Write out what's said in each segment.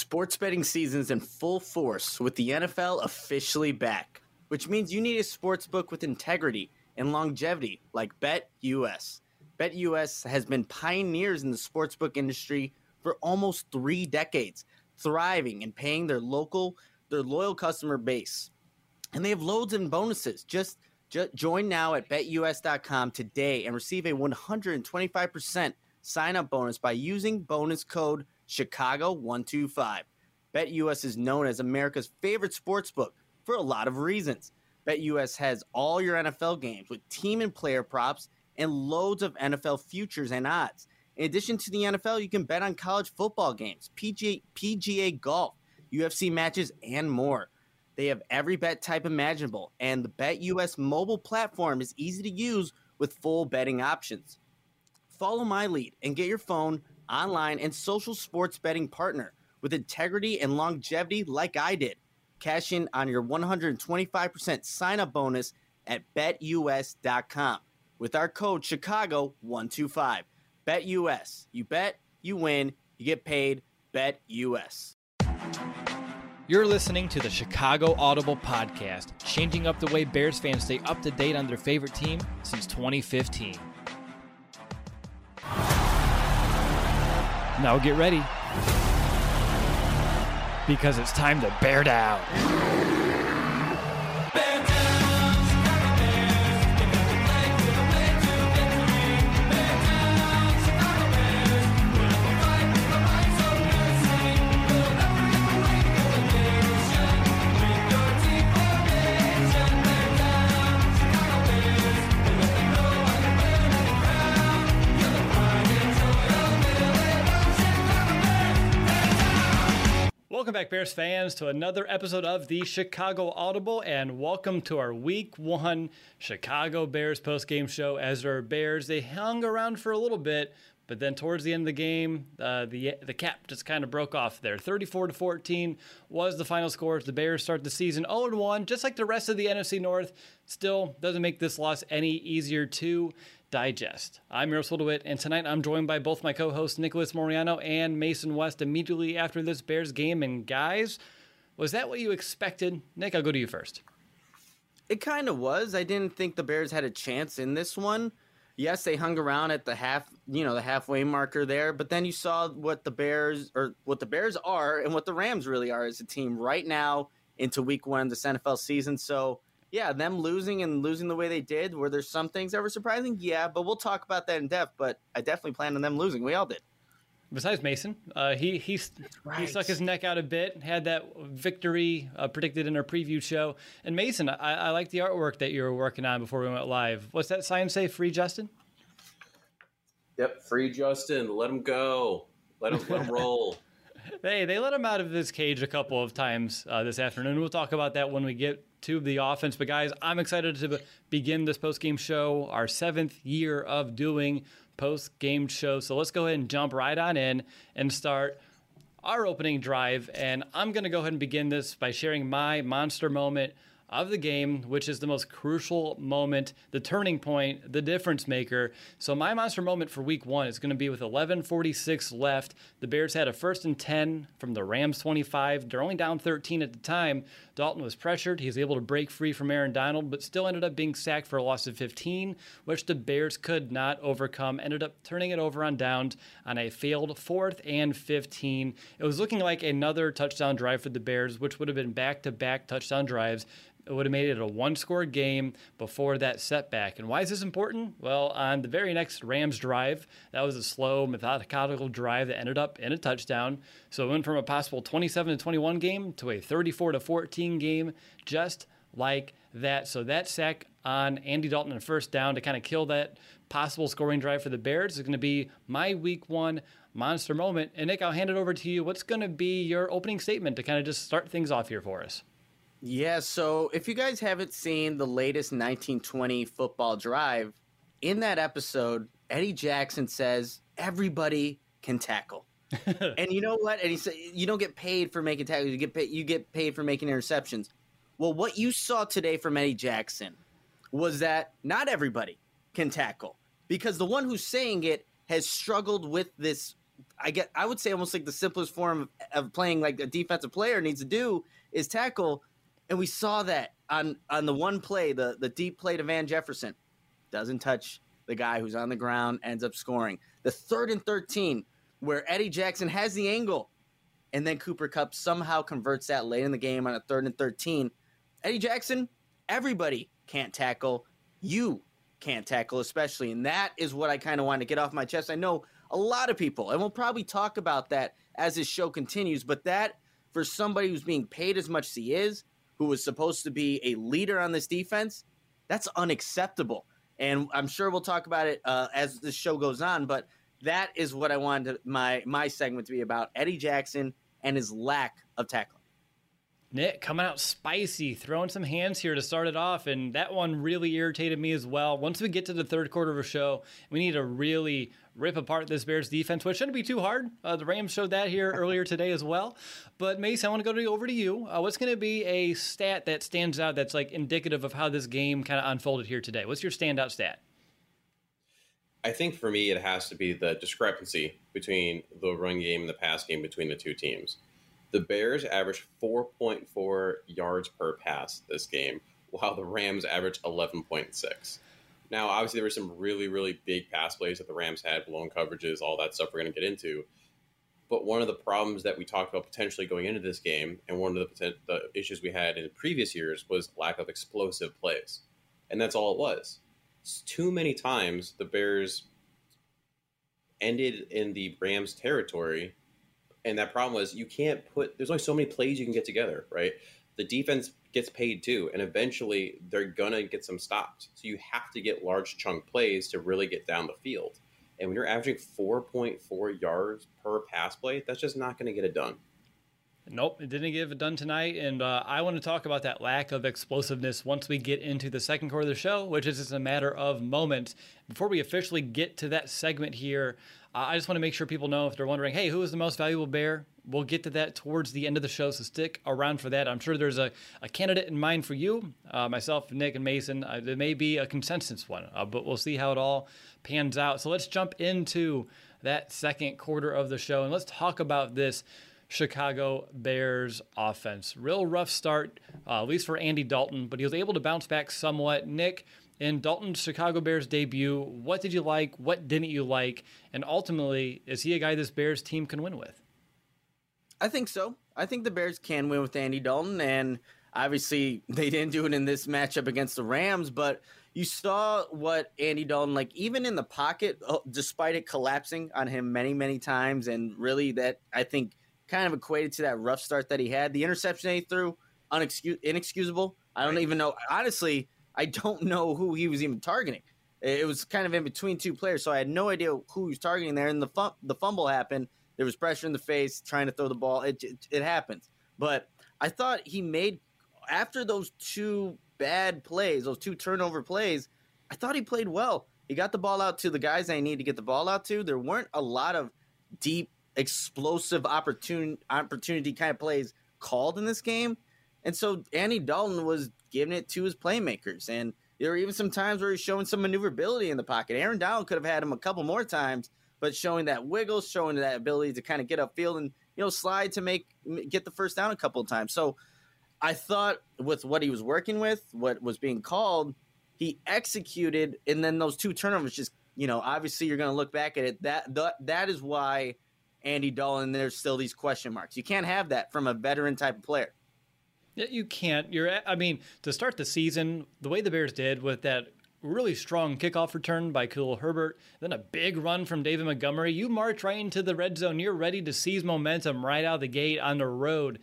Sports betting season's in full force with the NFL officially back, which means you need a sports book with integrity and longevity like BetUS. BetUS has been pioneers in the sportsbook industry for almost 3 decades, thriving and paying their loyal customer base. And they have loads and bonuses. Just join now at betus.com today and receive a 125% sign-up bonus by using bonus code Chicago125. BetUS is known as America's favorite sportsbook for a lot of reasons. BetUS has all your NFL games with team and player props and loads of NFL futures and odds. In addition to the NFL, you can bet on college football games, PGA golf, UFC matches, and more. They have every bet type imaginable, and the BetUS mobile platform is easy to use with full betting options. Follow my lead and get your phone, online, and social sports betting partner with integrity and longevity like I did. Cash in on your 125% sign-up bonus at betus.com with our code Chicago125. BetUS. You bet, you win, you get paid. BetUS. You're listening to the Chicago Audible Podcast, changing up the way Bears fans stay up to date on their favorite team since 2015. Now get ready, because it's time to bear down. Welcome back, Bears fans, to another episode of the Chicago Audible, and welcome to our Week 1 Chicago Bears postgame show. As our Bears, they hung around for a little bit, but then towards the end of the game, the cap just kind of broke off there. 34-14 was the final score. The Bears start the season 0-1, just like the rest of the NFC North. Still doesn't make this loss any easier to digest. I'm Miroslav DeWitt, and tonight I'm joined by both my co-hosts Nicholas Moriano and Mason West immediately after this Bears game. And guys, was that what you expected? Nick, I'll go to you first. It kind of was. I didn't think the Bears had a chance in this one. Yes, they hung around at the halfway marker there, but then you saw what the Bears are and what the Rams really are as a team right now into Week 1 of this NFL season. So yeah, them losing the way they did, were there some things that were surprising? Yeah, but we'll talk about that in depth, but I definitely planned on them losing. We all did. Besides Mason, he stuck his neck out a bit, had that victory predicted in our preview show. And Mason, I like the artwork that you were working on before we went live. What's that sign say, Free Justin? Yep, free Justin. Let him go. Let him roll. They let him out of this cage a couple of times this afternoon. We'll talk about that when we get to the offense. But guys, I'm excited to begin this post-game show, our 7th year of doing post-game shows. So let's go ahead and jump right on in and start our opening drive. And I'm going to go ahead and begin this by sharing my monster moment of the game, which is the most crucial moment, the turning point, the difference maker. So my monster moment for Week 1 is going to be with 11:46 left. The Bears had a 1st and 10 from the Rams 25. They're only down 13 at the time. Dalton was pressured. He was able to break free from Aaron Donald, but still ended up being sacked for a loss of 15, which the Bears could not overcome. Ended up turning it over on downs on a failed 4th and 15. It was looking like another touchdown drive for the Bears, which would have been back-to-back touchdown drives. It would have made it a one-score game before that setback. And why is this important? Well, on the very next Rams drive, that was a slow, methodical drive that ended up in a touchdown. So it went from a possible 27-21 game to a 34-14 game, just like that. So that sack on Andy Dalton and 1st down to kind of kill that possible scoring drive for the Bears is going to be my Week 1 monster moment. And Nick, I'll hand it over to you. What's going to be your opening statement to kind of just start things off here for us? Yeah, so if you guys haven't seen the latest 1920 football drive, in that episode, Eddie Jackson says, everybody can tackle. And you know what? And he said, you don't get paid for making tackles. You get paid for making interceptions. Well, what you saw today from Eddie Jackson was that not everybody can tackle, because the one who's saying it has struggled with this I would say almost like the simplest form of playing like a defensive player needs to do is tackle. And we saw that on the one play, the deep play to Van Jefferson. Doesn't touch the guy who's on the ground, ends up scoring. The 3rd and 13, where Eddie Jackson has the angle, and then Cooper Kupp somehow converts that late in the game on a 3rd and 13. Eddie Jackson, everybody can't tackle. You can't tackle especially, and that is what I kind of want to get off my chest. I know a lot of people, and we'll probably talk about that as this show continues, but that for somebody who's being paid as much as he is, who was supposed to be a leader on this defense, that's unacceptable. And I'm sure we'll talk about it as the show goes on, but that is what I wanted my segment to be about, Eddie Jackson and his lack of tackling. Nick coming out spicy, throwing some hands here to start it off, and that one really irritated me as well. Once we get to the third quarter of a show, we need to really rip apart this Bears defense, which shouldn't be too hard. The Rams showed that here earlier today as well. But Mason, I want to go over to you. What's going to be a stat that stands out that's like indicative of how this game kind of unfolded here today? What's your standout stat? I think for me, it has to be the discrepancy between the run game and the pass game between the two teams. The Bears averaged 4.4 yards per pass this game, while the Rams averaged 11.6. Now, obviously, there were some really, really big pass plays that the Rams had, blown coverages, all that stuff we're going to get into. But one of the problems that we talked about potentially going into this game, and one of the issues we had in previous years, was lack of explosive plays. And that's all it was. Too many times the Bears ended in the Rams' territory. And that problem was there's only so many plays you can get together, right? The defense gets paid too, and eventually they're going to get some stops. So you have to get large chunk plays to really get down the field. And when you're averaging 4.4 yards per pass play, that's just not going to get it done. Nope, it didn't get it done tonight, and I want to talk about that lack of explosiveness once we get into the second quarter of the show, which is just a matter of moments. Before we officially get to that segment here, I just want to make sure people know if they're wondering, hey, who is the most valuable Bear? We'll get to that towards the end of the show, so stick around for that. I'm sure there's a candidate in mind for you, myself, Nick, and Mason. There may be a consensus one, but we'll see how it all pans out. So let's jump into that second quarter of the show, and let's talk about this Chicago Bears offense. Real rough start, at least for Andy Dalton, but he was able to bounce back somewhat. Nick, in Dalton's Chicago Bears debut, what did you like? What didn't you like? And ultimately, is he a guy this Bears team can win with? I think so. I think the Bears can win with Andy Dalton, and obviously they didn't do it in this matchup against the Rams, but you saw what Andy Dalton, like even in the pocket, despite it collapsing on him many, many times, and really that, I think, kind of equated to that rough start that he had. The interception that he threw, inexcusable. I don't even know. Honestly, I don't know who he was even targeting. It was kind of in between two players, so I had no idea who he was targeting there. And the fumble happened. There was pressure in the face, trying to throw the ball. It happens. But I thought he made, after those two bad plays, those two turnover plays, I thought he played well. He got the ball out to the guys they need to get the ball out to. There weren't a lot of deep, explosive opportunity kind of plays called in this game. And so Andy Dalton was giving it to his playmakers. And there were even some times where he's showing some maneuverability in the pocket. Aaron Donald could have had him a couple more times, but showing that wiggle, showing that ability to kind of get upfield and, slide to get the first down a couple of times. So I thought with what he was working with, what was being called, he executed. And then those two turnovers just, obviously you're going to look back at it. That is why Andy Dalton, there's still these question marks. You can't have that from a veteran type of player. Yeah, you can't. To start the season, the way the Bears did with that really strong kickoff return by Khalil Herbert, then a big run from David Montgomery, you march right into the red zone. You're ready to seize momentum right out of the gate on the road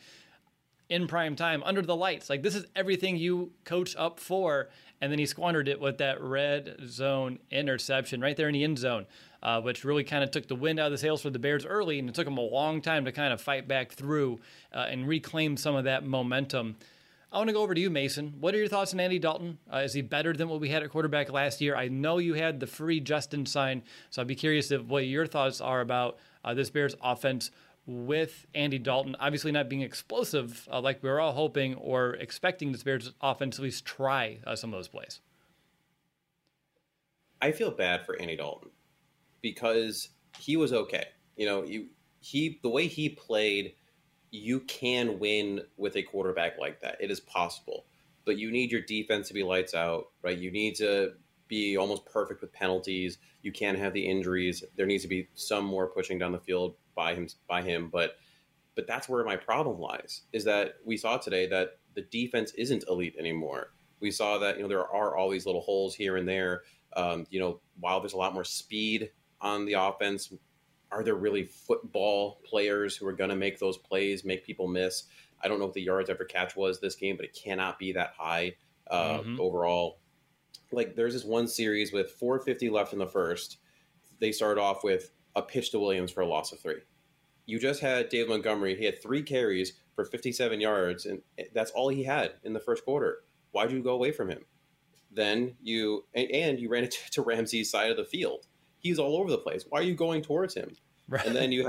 in prime time under the lights. Like, this is everything you coach up for. And then he squandered it with that red zone interception right there in the end zone, which really kind of took the wind out of the sails for the Bears early, and it took them a long time to kind of fight back through and reclaim some of that momentum. I want to go over to you, Mason. What are your thoughts on Andy Dalton? Is he better than what we had at quarterback last year? I know you had the free Justin sign, so I'd be curious of what your thoughts are about this Bears offense with Andy Dalton, obviously not being explosive like we were all hoping or expecting this Bears offense at least try some of those plays. I feel bad for Andy Dalton because he was okay. The way he played, you can win with a quarterback like that. It is possible, but you need your defense to be lights out, right? You need to be almost perfect with penalties. You can't have the injuries. There needs to be some more pushing down the field by him. But that's where my problem lies, is that we saw today that the defense isn't elite anymore. We saw that, there are all these little holes here and there. While there's a lot more speed on the offense, are there really football players who are going to make those plays, make people miss? I don't know what the yards after catch was this game, but it cannot be that high overall. Like, there's this one series with 4:50 left in the first. They started off with a pitch to Williams for a loss of 3. You just had Dave Montgomery. He had 3 carries for 57 yards, and that's all he had in the first quarter. Why'd you go away from him? Then you ran it to Ramsey's side of the field. He's all over the place. Why are you going towards him? Right. And then you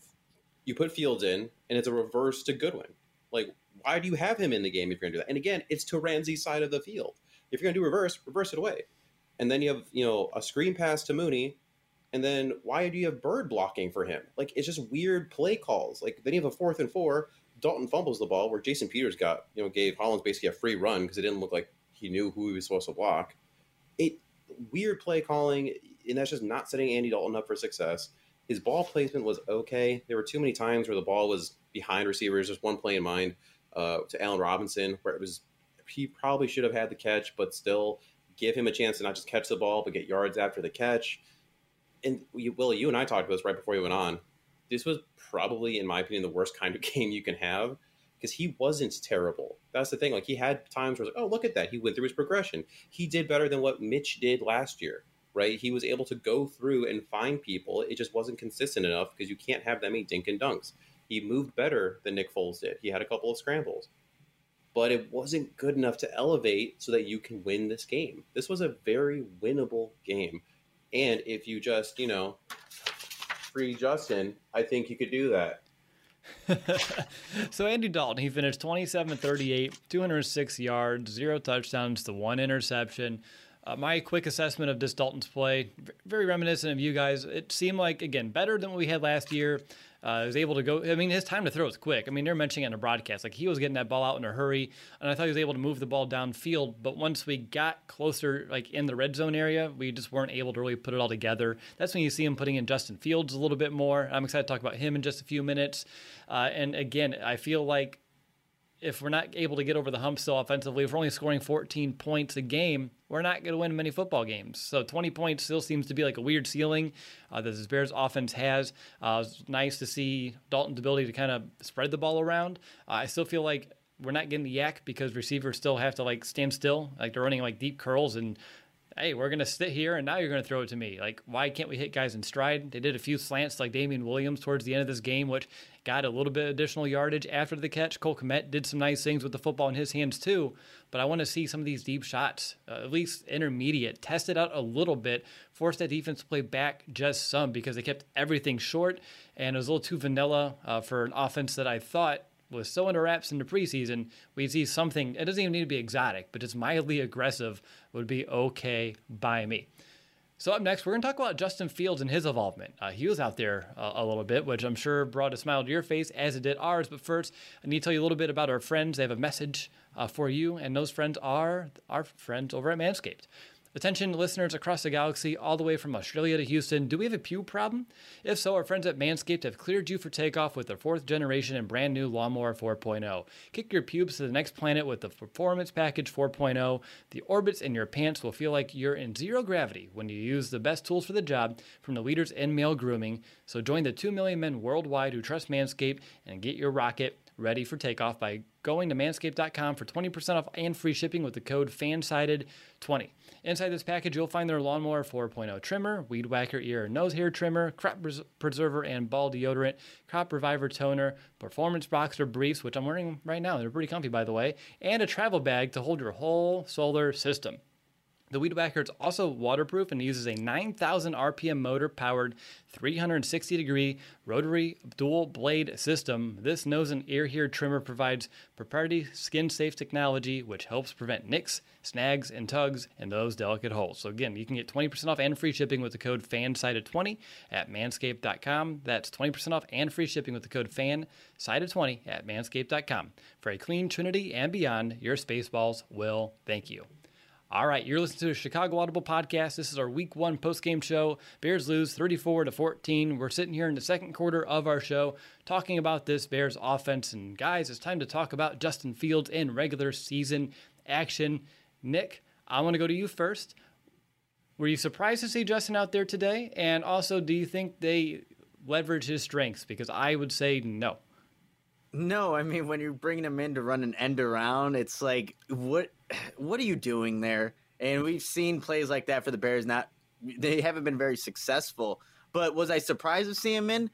put Fields in, and it's a reverse to Goodwin. Like, why do you have him in the game if you're going to do that? And again, it's to Ramsey's side of the field. If you're going to do reverse it away. And then you have, a screen pass to Mooney. And then why do you have Bird blocking for him? Like, it's just weird play calls. Like, then you have a 4th and 4. Dalton fumbles the ball where Jason Peters gave Hollins basically a free run because it didn't look like he knew who he was supposed to block. Weird play calling, and that's just not setting Andy Dalton up for success. His ball placement was okay. There were too many times where the ball was behind receivers. Just one play in mind to Allen Robinson where he probably should have had the catch, but still give him a chance to not just catch the ball, but get yards after the catch. And Willie, you and I talked about this right before we went on. This was probably, in my opinion, the worst kind of game you can have because he wasn't terrible. That's the thing. Like, he had times where, oh, look at that. He went through his progression. He did better than what Mitch did last year, right? He was able to go through and find people. It just wasn't consistent enough because you can't have that many dink and dunks. He moved better than Nick Foles did. He had a couple of scrambles. But it wasn't good enough to elevate so that you can win this game. This was a very winnable game. And if you just, free Justin, I think you could do that. So Andy Dalton, he finished 27-38, 206 yards, 0 touchdowns to 1 interception. My quick assessment of this Dalton's play, very reminiscent of you guys. It seemed like, again, better than what we had last year. He was able to go. I mean, his time to throw was quick. I mean, they're mentioning it in a broadcast. Like, he was getting that ball out in a hurry, and I thought he was able to move the ball downfield. But once we got closer, like in the red zone area, we just weren't able to really put it all together. That's when you see him putting in Justin Fields a little bit more. I'm excited to talk about him in just a few minutes. And again, I feel like if we're not able to get over the hump still offensively, if we're only scoring 14 points a game, we're not going to win many football games. So 20 points still seems to be like a weird ceiling that this Bears offense has. It's nice to see Dalton's ability to kind of spread the ball around. I still feel like we're not getting the yak because receivers still have to stand still. Like, they're running deep curls and, hey, we're going to sit here and now you're going to throw it to me. Like, why can't we hit guys in stride? They did a few slants like Damian Williams towards the end of this game, which got a little bit additional yardage after the catch. Cole Kmet did some nice things with the football in his hands too, but I want to see some of these deep shots, at least intermediate, test it out a little bit, force that defense to play back just some because they kept everything short and it was a little too vanilla for an offense that I thought was so under wraps in the preseason. We'd see something, it doesn't even need to be exotic, but just mildly aggressive would be okay by me. So up next, we're going to talk about Justin Fields and his involvement. He was out there a little bit, which I'm sure brought a smile to your face, as it did ours. But first, I need to tell you a little bit about our friends. They have a message for you, and those friends are our friends over at Manscaped. Attention listeners across the galaxy, all the way from Australia to Houston, do we have a pube problem? If so, our friends at Manscaped have cleared you for takeoff with their 4th generation and brand new Lawnmower 4.0. Kick your pubes to the next planet with the Performance Package 4.0. The orbits in your pants will feel like you're in zero gravity when you use the best tools for the job from the leaders in male grooming. So join the 2 million men worldwide who trust Manscaped and get your rocket ready for takeoff by going to manscaped.com for 20% off and free shipping with the code FANSIDED20. Inside this package, you'll find their Lawnmower 4.0 trimmer, Weed Whacker ear and nose hair trimmer, crop preserver and ball deodorant, crop reviver toner, performance boxer briefs, which I'm wearing right now. They're pretty comfy, by the way, and a travel bag to hold your whole solar system. The Weed Whacker is also waterproof and uses a 9,000 RPM motor-powered 360-degree rotary dual blade system. This nose and ear hair trimmer provides proprietary skin-safe technology, which helps prevent nicks, snags, and tugs in those delicate holes. So again, you can get 20% off and free shipping with the code FANSIDED20 at manscaped.com. That's 20% off and free shipping with the code FANSIDED20 at manscaped.com. For a clean trinity and beyond, your Spaceballs will thank you. All right, you're listening to the Chicago Audible Podcast. This is our Week 1 postgame show. Bears lose 34-14. We're sitting here in the second quarter of our show talking about this Bears offense. And guys, it's time to talk about Justin Fields in regular season action. Nick, I want to go to you first. Were you surprised to see Justin out there today? And also, do you think they leverage his strengths? Because I would say no. No, I mean, when you're bringing him in to run an end around, it's like, what are you doing there? And we've seen plays like that for the Bears. They haven't been very successful. But was I surprised to see him in?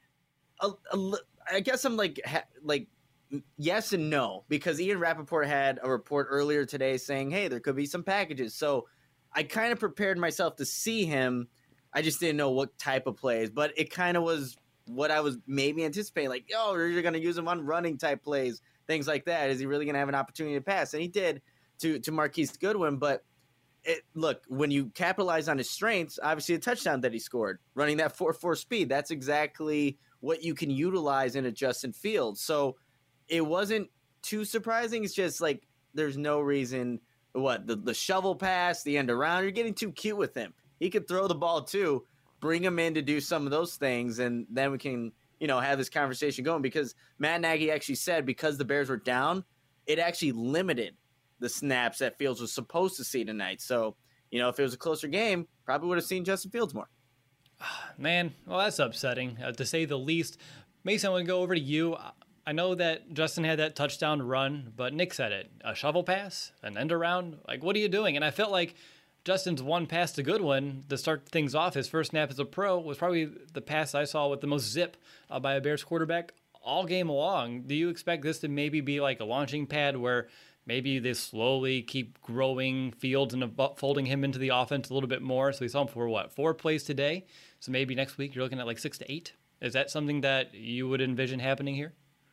I guess I'm like yes and no, because Ian Rappaport had a report earlier today saying, hey, there could be some packages. So I kind of prepared myself to see him. I just didn't know what type of plays, but it kind of was what I was maybe anticipating, like, you're going to use him on running type plays, things like that. Is he really going to have an opportunity to pass? And he did to Marquise Goodwin. But look, when you capitalize on his strengths, obviously a touchdown that he scored, running that 4.4 speed, that's exactly what you can utilize in a Justin Fields. So it wasn't too surprising. It's just like there's no reason. The shovel pass, the end around, you're getting too cute with him. He could throw the ball too. Bring him in to do some of those things, and then we can, have this conversation going, because Matt Nagy actually said because the Bears were down, it actually limited the snaps that Fields was supposed to see tonight. So, if it was a closer game, probably would have seen Justin Fields more. Man, well, that's upsetting, to say the least. Mason, I want to go over to you. I know that Justin had that touchdown run, but Nick said it. A shovel pass, an end around, like, what are you doing? And I felt like Justin's one pass to Goodwin to start things off, his first snap as a pro, was probably the pass I saw with the most zip by a Bears quarterback all game long. Do you expect this to maybe be like a launching pad where maybe they slowly keep growing Fields and folding him into the offense a little bit more? So we saw him for 4 plays today. So maybe next week you're looking at like 6 to 8. Is that something that you would envision happening here?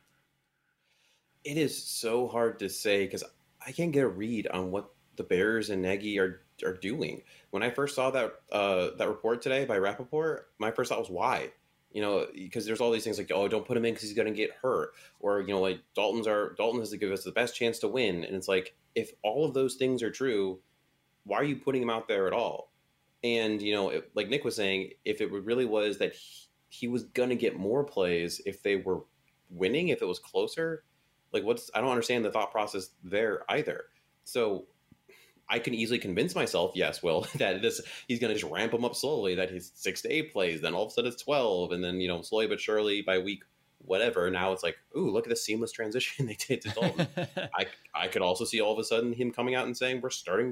It is so hard to say because I can't get a read on what the Bears and Nagy are doing. When I first saw that report today by Rappaport, my first thought was why? Because there's all these things like, don't put him in because he's going to get hurt, or like Dalton has to give us the best chance to win, and it's like, if all of those things are true, why are you putting him out there at all? And like Nick was saying, if it really was that he was going to get more plays if they were winning, if it was closer, like I don't understand the thought process there either. So I can easily convince myself, yes, Will, that he's going to just ramp him up slowly, that he's 6 to 8 plays, then all of a sudden it's 12, and then, slowly but surely by week whatever, now it's like, ooh, look at the seamless transition they did to Dalton. I could also see all of a sudden him coming out and saying, we're starting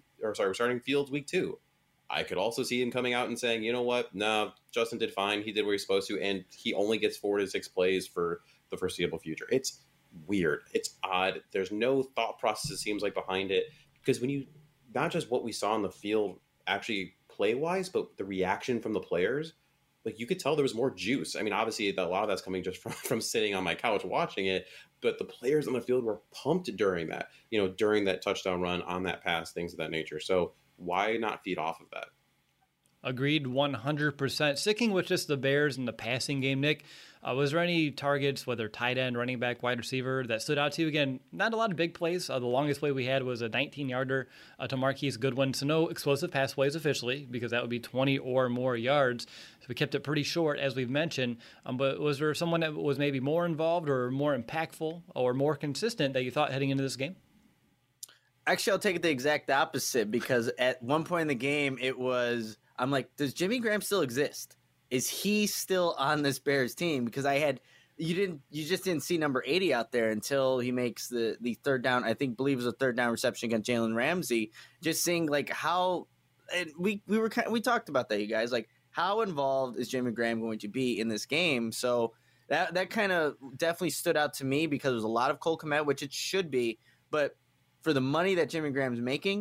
Fields week 2. I could also see him coming out and saying, you know what, no, Justin did fine, he did what he's supposed to, and he only gets 4 to 6 plays for the foreseeable future. It's weird. It's odd. There's no thought process, it seems like, behind it. Because when you, not just what we saw on the field actually play-wise, but the reaction from the players, like you could tell there was more juice. I mean, obviously a lot of that's coming just from sitting on my couch watching it, but the players on the field were pumped during that, during that touchdown run, on that pass, things of that nature. So why not feed off of that? Agreed 100%. Sticking with just the Bears and the passing game, Nick, was there any targets, whether tight end, running back, wide receiver, that stood out to you? Again, not a lot of big plays. The longest play we had was a 19-yarder to Marquise Goodwin. So no explosive pass plays officially, because that would be 20 or more yards. So we kept it pretty short, as we've mentioned. But was there someone that was maybe more involved or more impactful or more consistent that you thought heading into this game? Actually, I'll take it the exact opposite, because at one point in the game, I'm like, does Jimmy Graham still exist? Is he still on this Bears team? Because you just didn't see number 80 out there until he makes the third down. Believe it was a third down reception against Jalen Ramsey. Just seeing like how, and we talked about that, you guys, like how involved is Jimmy Graham going to be in this game? So that kind of definitely stood out to me, because there was a lot of Cole Kmet, which it should be, but for the money that Jimmy Graham's making,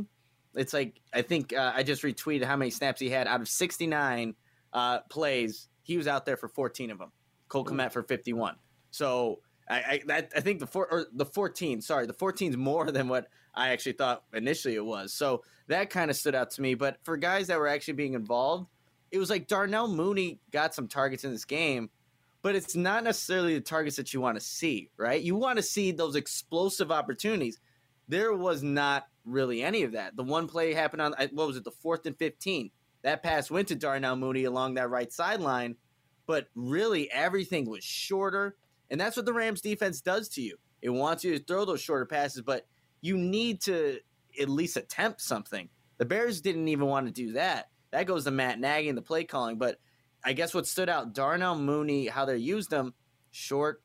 It's like, I think I just retweeted how many snaps he had. Out of 69 plays, he was out there for 14 of them. Cole Kmet for 51. So I think the 14 is more than what I actually thought initially it was. So that kind of stood out to me. But for guys that were actually being involved, it was like Darnell Mooney got some targets in this game, but it's not necessarily the targets that you want to see, right? You want to see those explosive opportunities. There was not really any of that. The one play happened on, what was it, the 4th and 15. That pass went to Darnell Mooney along that right sideline, but really everything was shorter. And that's what the Rams defense does to you. It wants you to throw those shorter passes, but you need to at least attempt something. The Bears didn't even want to do that. That goes to Matt Nagy and the play calling. But I guess what stood out, Darnell Mooney, how they used him, short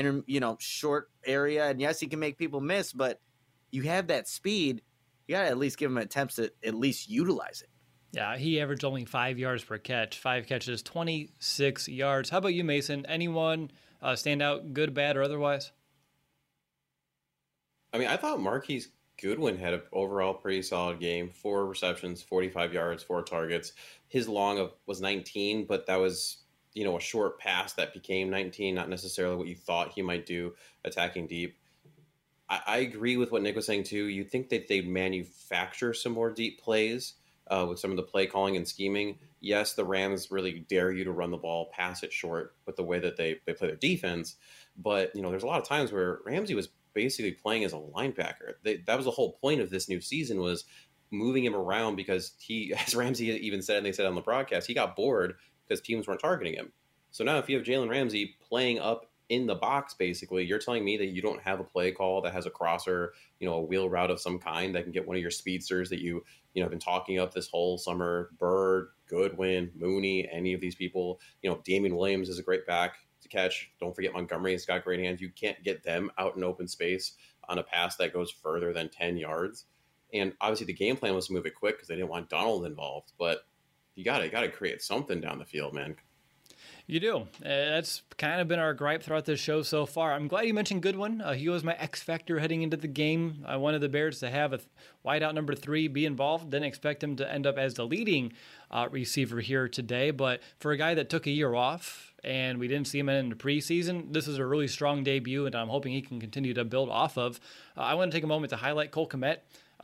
area. And yes, he can make people miss, but you have that speed. You got to at least give him attempts to at least utilize it. Yeah, he averaged only 5 yards per catch. 5 catches, 26 yards. How about you, Mason? Anyone stand out, good, bad, or otherwise? I mean, I thought Marquise Goodwin had an overall pretty solid game. 4 receptions, 45 yards, 4 targets. His long was 19, but that was, a short pass that became 19, not necessarily what you thought he might do attacking deep. I agree with what Nick was saying, too. You'd think that they'd manufacture some more deep plays with some of the play calling and scheming. Yes, the Rams really dare you to run the ball, pass it short with the way that they play their defense. But, there's a lot of times where Ramsey was basically playing as a linebacker. That was the whole point of this new season, was moving him around, because he, as Ramsey even said, and they said on the broadcast, he got bored because teams weren't targeting him. So now if you have Jalen Ramsey playing up in the box, basically, you're telling me that you don't have a play call that has a crosser, a wheel route of some kind that can get one of your speedsters that you have been talking up this whole summer, Bird, Goodwin, Mooney, any of these people. Damian Williams is a great back to catch. Don't forget Montgomery has got great hands. You can't get them out in open space on a pass that goes further than 10 yards. And obviously the game plan was to move it quick because they didn't want Donald involved. But you got to create something down the field, man. You do. That's kind of been our gripe throughout this show so far. I'm glad you mentioned Goodwin. He was my X factor heading into the game. I wanted the Bears to have a wideout number 3 be involved. Didn't expect him to end up as the leading receiver here today. But for a guy that took a year off and we didn't see him in the preseason, this is a really strong debut, and I'm hoping he can continue to build off of. I want to take a moment to highlight Cole Kmet.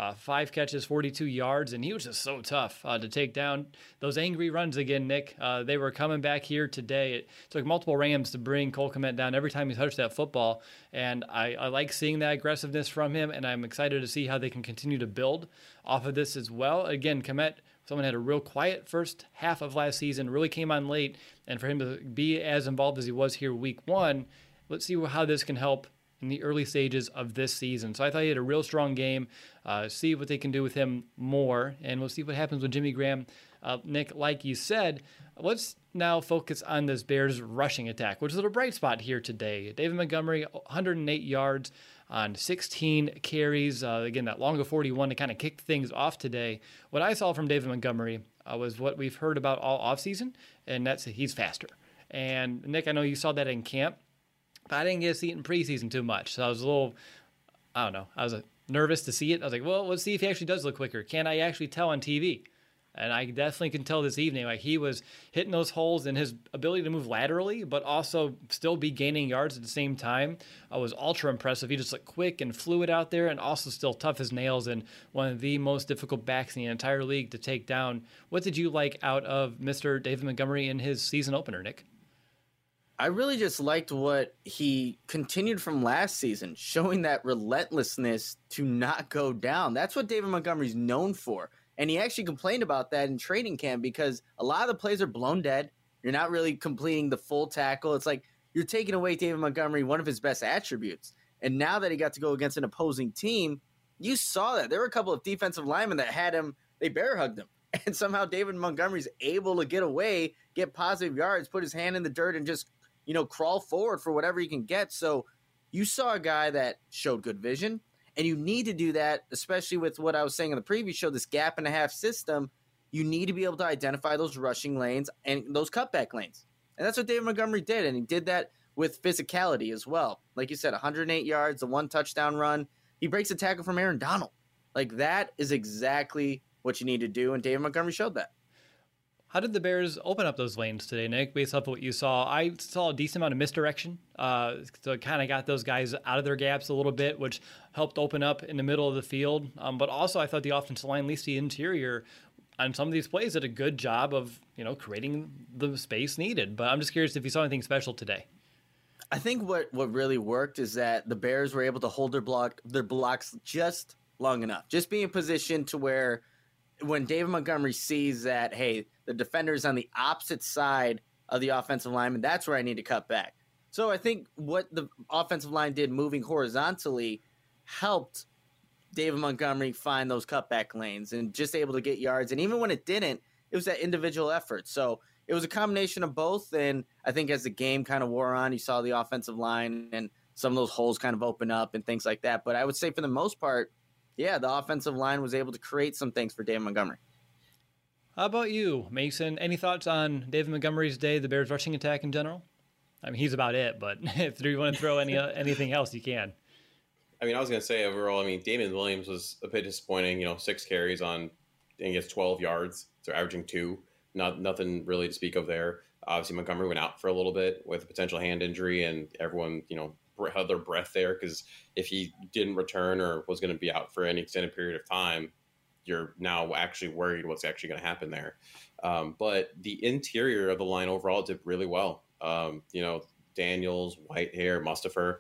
5 catches, 42 yards, and he was just so tough to take down. Those angry runs again, Nick, they were coming back here today. It took multiple Rams to bring Cole Kmet down every time he touched that football, and I like seeing that aggressiveness from him, and I'm excited to see how they can continue to build off of this as well. Again, Kmet, someone had a real quiet first half of last season, really came on late, and for him to be as involved as he was here week 1, let's see how this can help in the early stages of this season. So I thought he had a real strong game. See what they can do with him more, and we'll see what happens with Jimmy Graham. Nick, like you said, let's now focus on this Bears rushing attack, which is a bright spot here today. David Montgomery, 108 yards on 16 carries. Again, that long of 41 to kind of kick things off today. What I saw from David Montgomery was what we've heard about all offseason, and that's he's faster. And Nick, I know you saw that in camp. But I didn't get to see it in preseason too much. So I was a little, I was nervous to see it. I was like, well, let's see if he actually does look quicker. Can I actually tell on TV? And I definitely can tell this evening, like he was hitting those holes, and his ability to move laterally, but also still be gaining yards at the same time was ultra impressive. He just looked quick and fluid out there, and also still tough as nails, and one of the most difficult backs in the entire league to take down. What did you like out of Mr. David Montgomery in his season opener, Nick? I really just liked what he continued from last season, showing that relentlessness to not go down. That's what David Montgomery's known for. And he actually complained about that in training camp because a lot of the plays are blown dead. You're not really completing the full tackle. It's like you're taking away David Montgomery, one of his best attributes. And now that he got to go against an opposing team, you saw that. There were a couple of defensive linemen that had him, they bear hugged him. And somehow David Montgomery's able to get away, get positive yards, put his hand in the dirt, and just crawl forward for whatever he can get. So you saw a guy that showed good vision, and you need to do that, especially with what I was saying in the previous show, this gap and a half system. You need to be able to identify those rushing lanes and those cutback lanes. And that's what David Montgomery did, and he did that with physicality as well. Like you said, 108 yards, a 1 touchdown run. He breaks a tackle from Aaron Donald. Like, that is exactly what you need to do, and David Montgomery showed that. How did the Bears open up those lanes today, Nick, based off of what you saw? I saw a decent amount of misdirection. So it kind of got those guys out of their gaps a little bit, which helped open up in the middle of the field. But also, I thought the offensive line, at least the interior, on some of these plays, did a good job of, creating the space needed. But I'm just curious if you saw anything special today. I think what really worked is that the Bears were able to hold their blocks just long enough. Just be in position to where when David Montgomery sees that, hey, the defender's on the opposite side of the offensive lineman, that's where I need to cut back. So I think what the offensive line did moving horizontally helped David Montgomery find those cutback lanes and just able to get yards. And even when it didn't, it was that individual effort. So it was a combination of both. And I think as the game kind of wore on, you saw the offensive line and some of those holes kind of open up and things like that. But I would say for the most part, yeah, the offensive line was able to create some things for David Montgomery. How about you, Mason? Any thoughts on David Montgomery's day, the Bears rushing attack in general? I mean, he's about it, but if you want to throw anything else, you can. I mean, I was going to say overall, Damian Williams was a bit disappointing. 6 carries on, I guess, 12 yards. So averaging 2. Nothing really to speak of there. Obviously, Montgomery went out for a little bit with a potential hand injury, and everyone, held their breath there because if he didn't return or was going to be out for any extended period of time, you're now actually worried what's actually going to happen there. But the interior of the line overall did really well. Daniels, Whitehair, Mustipher,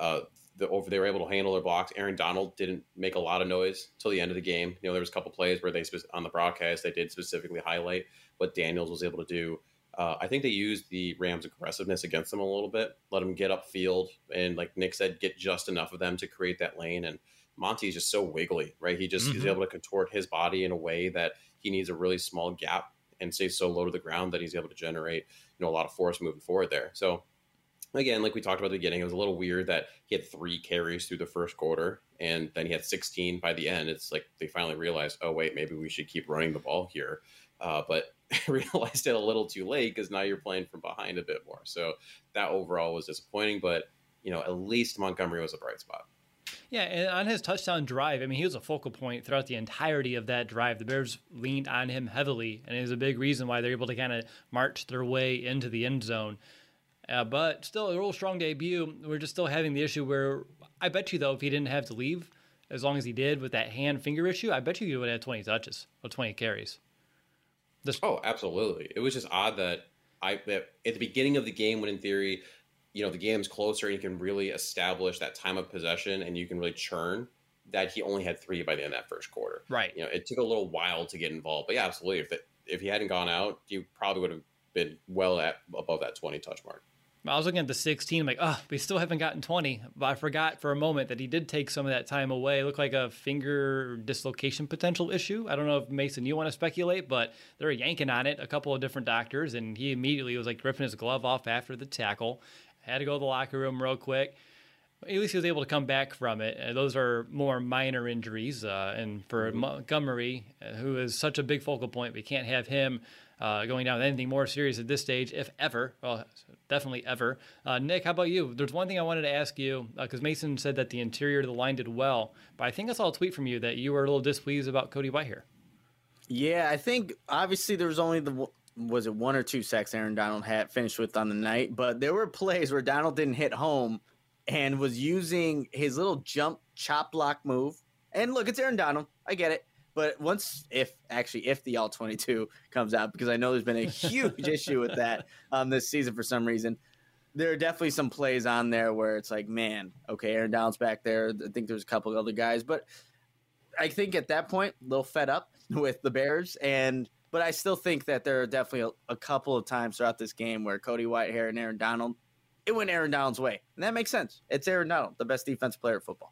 they were able to handle their blocks. Aaron Donald didn't make a lot of noise till the end of the game. There was a couple plays where on the broadcast, they did specifically highlight what Daniels was able to do. I think they used the Rams' aggressiveness against them a little bit, let them get upfield, and like Nick said, get just enough of them to create that lane. And Monty's just so wiggly, right? He just is able to contort his body in a way that he needs a really small gap and stay so low to the ground that he's able to generate, a lot of force moving forward there. So again, like we talked about at the beginning, it was a little weird that he had 3 carries through the first quarter and then he had 16 by the end. It's like they finally realized, oh wait, maybe we should keep running the ball here. But realized it a little too late because now you're playing from behind a bit more. So that overall was disappointing, but at least Montgomery was a bright spot. Yeah, and on his touchdown drive, he was a focal point throughout the entirety of that drive. The Bears leaned on him heavily, and it was a big reason why they're able to kind of march their way into the end zone. But still, a real strong debut. We're just still having the issue where I bet you, though, if he didn't have to leave, as long as he did with that hand-finger issue, I bet you would have had 20 touches or 20 carries. Oh, absolutely. It was just odd that at the beginning of the game, when in theory, the game's closer and you can really establish that time of possession and you can really churn, that he only had 3 by the end of that first quarter. Right. It took a little while to get involved. But yeah, absolutely. If he hadn't gone out, you probably would have been well above that 20 touch mark. I was looking at the 16, I'm like, we still haven't gotten 20. But I forgot for a moment that he did take some of that time away. It looked like a finger dislocation potential issue. I don't know if, Mason, you want to speculate, but they're yanking on it, a couple of different doctors, and he immediately was like ripping his glove off after the tackle. Had to go to the locker room real quick. At least he was able to come back from it. Those are more minor injuries. And for Montgomery, who is such a big focal point, we can't have him going down with anything more serious at this stage, if ever. Well, definitely ever. Nick, how about you? There's one thing I wanted to ask you, because Mason said that the interior of the line did well, but I think I saw a tweet from you that you were a little displeased about Cody Whitehair. Yeah, I think obviously there was only 1 or 2 sacks Aaron Donald had finished with on the night, but there were plays where Donald didn't hit home and was using his little jump chop block move. And look, it's Aaron Donald. I get it. But if the All-22 comes out, because I know there's been a huge issue with that this season for some reason, there are definitely some plays on there where it's like, man, okay, Aaron Donald's back there. I think there's a couple of other guys. But I think at that point, a little fed up with the Bears. But I still think that there are definitely a couple of times throughout this game where Cody Whitehair and Aaron Donald, it went Aaron Donald's way. And that makes sense. It's Aaron Donald, the best defensive player in football.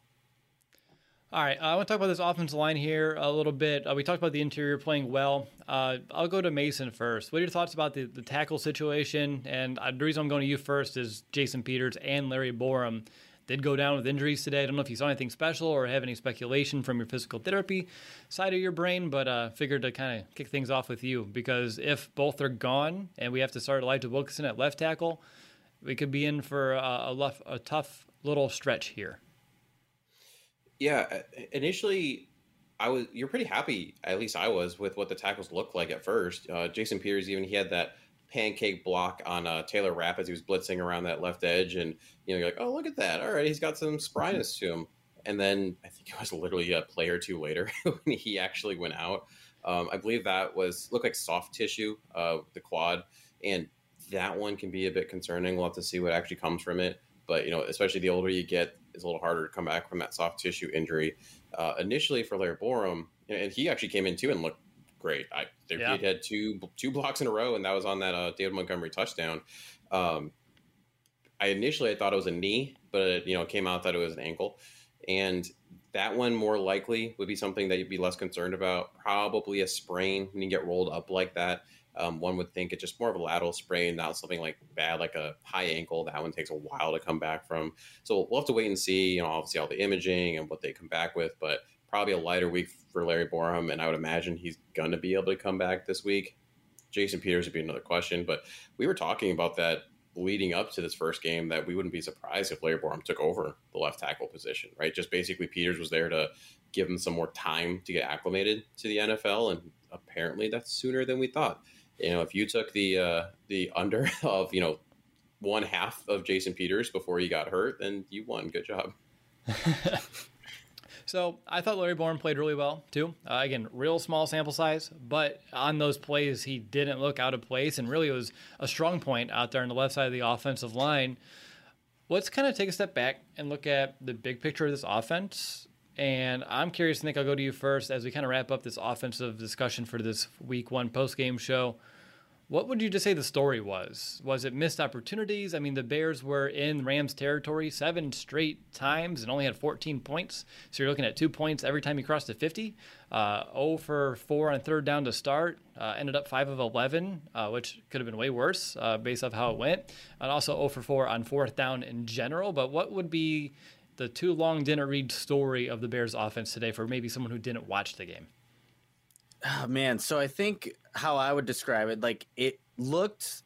All right, I want to talk about this offensive line here a little bit. We talked about the interior playing well. I'll go to Mason first. What are your thoughts about the tackle situation? And the reason I'm going to you first is Jason Peters and Larry Borum did go down with injuries today. I don't know if you saw anything special or have any speculation from your physical therapy side of your brain, but figured to kind of kick things off with you, because if both are gone and we have to start Elijah Wilkinson at left tackle, we could be in for a tough little stretch here. Yeah, initially, you're pretty happy, at least I was, with what the tackles looked like at first. Jason Peters, even he had that pancake block on Taylor Rapp as he was blitzing around that left edge, and you're like, oh, look at that! All right, he's got some spryness to him. And then I think it was literally a play or two later when he actually went out. I believe that looked like soft tissue, the quad, and that one can be a bit concerning. We'll have to see what actually comes from it. But especially the older you get, it's a little harder to come back from that soft tissue injury. Initially for Larry Borom, and he actually came in too and looked great. He had two blocks in a row, and that was on that David Montgomery touchdown. I thought it was a knee, but it came out that it was an ankle. And that one more likely would be something that you'd be less concerned about. Probably a sprain when you get rolled up like that. One would think it's just more of a lateral sprain, not something like bad, like a high ankle. That one takes a while to come back from. So we'll have to wait and see, obviously all the imaging and what they come back with, but probably a lighter week for Larry Borom. And I would imagine he's going to be able to come back this week. Jason Peters would be another question, but we were talking about that leading up to this first game, that we wouldn't be surprised if Larry Borom took over the left tackle position, right? Just basically Peters was there to give him some more time to get acclimated to the NFL, and apparently that's sooner than we thought. If you took the under of one half of Jason Peters before he got hurt, then you won. Good job. So I thought Larry Borom played really well too. Again, real small sample size, but on those plays he didn't look out of place, and really it was a strong point out there on the left side of the offensive line. Let's kind of take a step back and look at the big picture of this offense. And I'm curious, Nick, I'll go to you first as we kind of wrap up this offensive discussion for this week 1 post-game show. What would you just say the story was? Was it missed opportunities? I mean, the Bears were in Rams territory 7 straight times and only had 14 points. So you're looking at 2 points every time you crossed the 50. 0 for 4 on third down to start. Ended up 5 of 11, which could have been way worse based off how it went. And also 0 for 4 on fourth down in general. But what would be the too long didn't read story of the Bears offense today for maybe someone who didn't watch the game? Oh, man. So I think how I would describe it, like it looked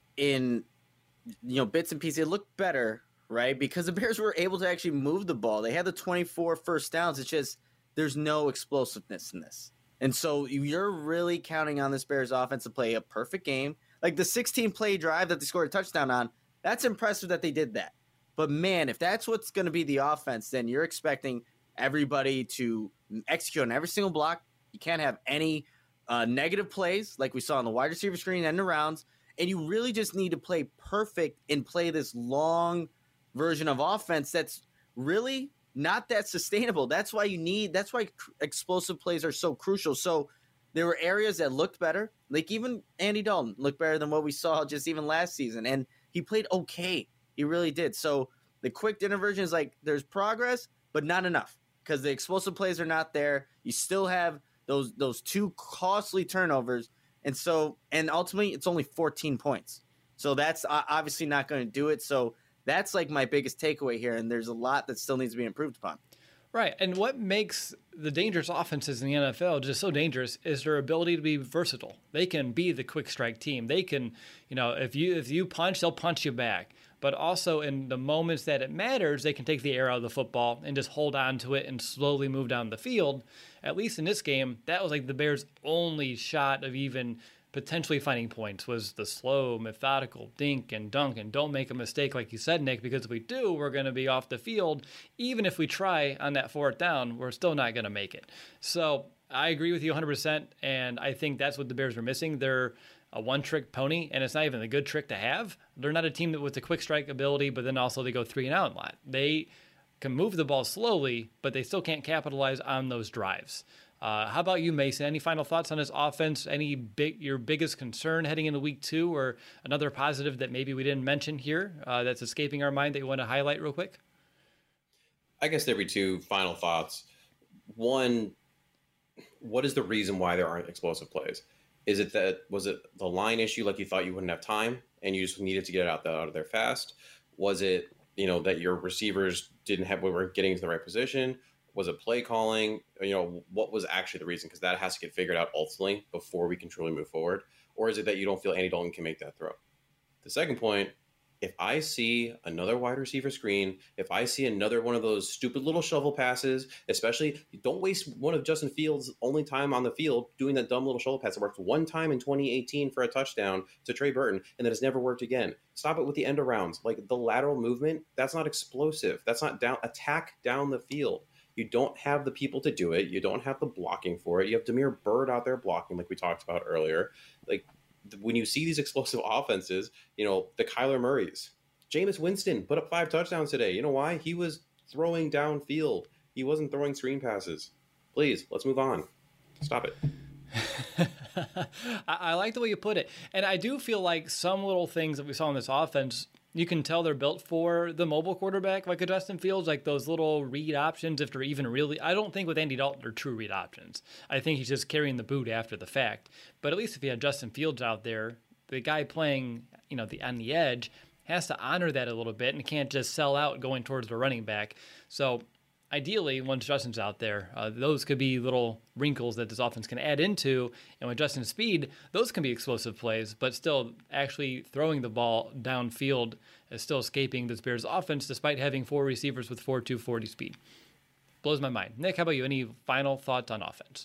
in, bits and pieces, it looked better, right? Because the Bears were able to actually move the ball. They had the 24 first downs. It's just there's no explosiveness in this. And so you're really counting on this Bears offense to play a perfect game. Like the 16-play drive that they scored a touchdown on, that's impressive that they did that. But, man, if that's what's going to be the offense, then you're expecting everybody to execute on every single block. You can't have any negative plays like we saw on the wide receiver screen and the rounds. And you really just need to play perfect and play this long version of offense that's really not that sustainable. That's why explosive plays are so crucial. So there were areas that looked better. Like even Andy Dalton looked better than what we saw just even last season. And he played okay. He really did. So the quick dinner version is like there's progress, but not enough because the explosive plays are not there. You still have those 2 costly turnovers. And ultimately it's only 14 points. So that's obviously not going to do it. So that's like my biggest takeaway here. And there's a lot that still needs to be improved upon. Right. And what makes the dangerous offenses in the NFL just so dangerous is their ability to be versatile. They can be the quick strike team. They can, if you punch, they'll punch you back. But also in the moments that it matters, they can take the air out of the football and just hold on to it and slowly move down the field. At least in this game, that was like the Bears' only shot of even potentially finding points was the slow, methodical dink and dunk. And don't make a mistake, like you said, Nick, because if we do, we're going to be off the field. Even if we try on that fourth down, we're still not going to make it. So I agree with you 100%, and I think that's what the Bears were missing. They're a one-trick pony, and it's not even a good trick to have. They're not a team that with the quick strike ability, but then also they go 3 and out a lot. They can move the ball slowly, but they still can't capitalize on those drives. How about you, Mason? Any final thoughts on this offense? Your biggest concern heading into week 2, or another positive that maybe we didn't mention here that's escaping our mind that you want to highlight real quick? I guess there'd be 2 final thoughts. One, what is the reason why there aren't explosive plays? Was it the line issue, like you thought you wouldn't have time and you just needed to get it out of there fast? Was it, that your receivers weren't getting to the right position? Was it play calling? What was actually the reason? Because that has to get figured out ultimately before we can truly move forward. Or is it that you don't feel Andy Dalton can make that throw? The second point, if I see another wide receiver screen, if I see another one of those stupid little shovel passes, especially don't waste one of Justin Fields' only time on the field doing that dumb little shovel pass that worked one time in 2018 for a touchdown to Trey Burton, and then it's never worked again. Stop it with the end arounds. Like the lateral movement, that's not explosive. That's not attack down the field. You don't have the people to do it. You don't have the blocking for it. You have Damiere Byrd out there blocking like we talked about earlier. Like, when you see these explosive offenses, the Kyler Murrays, Jameis Winston put up 5 touchdowns today. You know why? He was throwing downfield. He wasn't throwing screen passes. Please, let's move on. Stop it. I like the way you put it. And I do feel like some little things that we saw in this offense, you can tell they're built for the mobile quarterback like a Justin Fields, like those little read options, if they're even really. I don't think with Andy Dalton they're true read options. I think he's just carrying the boot after the fact. But at least if you had Justin Fields out there, the guy playing, on the edge has to honor that a little bit and can't just sell out going towards the running back. So ideally, once Justin's out there, those could be little wrinkles that this offense can add into. And with Justin's speed, those can be explosive plays, but still actually throwing the ball downfield is still escaping this Bears offense despite having 4 receivers with 4.240 speed. Blows my mind. Nick, how about you? Any final thoughts on offense?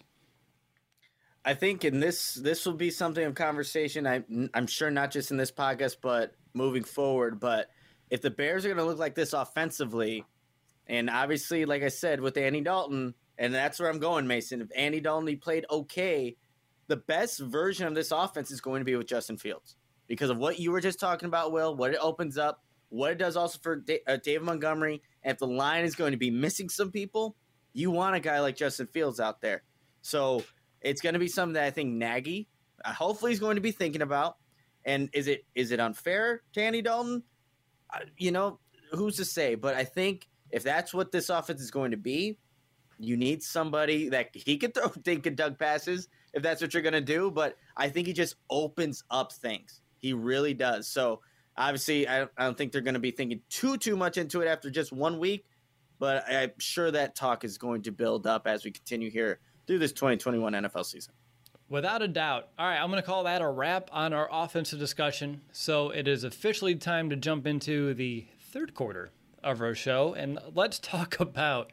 I think this will be something of conversation. I'm sure not just in this podcast, but moving forward. But if the Bears are going to look like this offensively, and obviously, like I said, with Andy Dalton, and that's where I'm going, Mason. If Andy Dalton, he played okay, the best version of this offense is going to be with Justin Fields because of what you were just talking about, Will, what it opens up, what it does also for David Montgomery. And if the line is going to be missing some people, you want a guy like Justin Fields out there. So it's going to be something that I think Nagy, hopefully, is going to be thinking about. And is it unfair to Andy Dalton? Who's to say? But I think if that's what this offense is going to be, you need somebody that he could throw dink and dunk passes if that's what you're going to do. But I think he just opens up things. He really does. So obviously, I don't think they're going to be thinking too much into it after just 1 week. But I'm sure that talk is going to build up as we continue here through this 2021 NFL season. Without a doubt. All right, I'm going to call that a wrap on our offensive discussion. So it is officially time to jump into the third quarter of our show, and let's talk about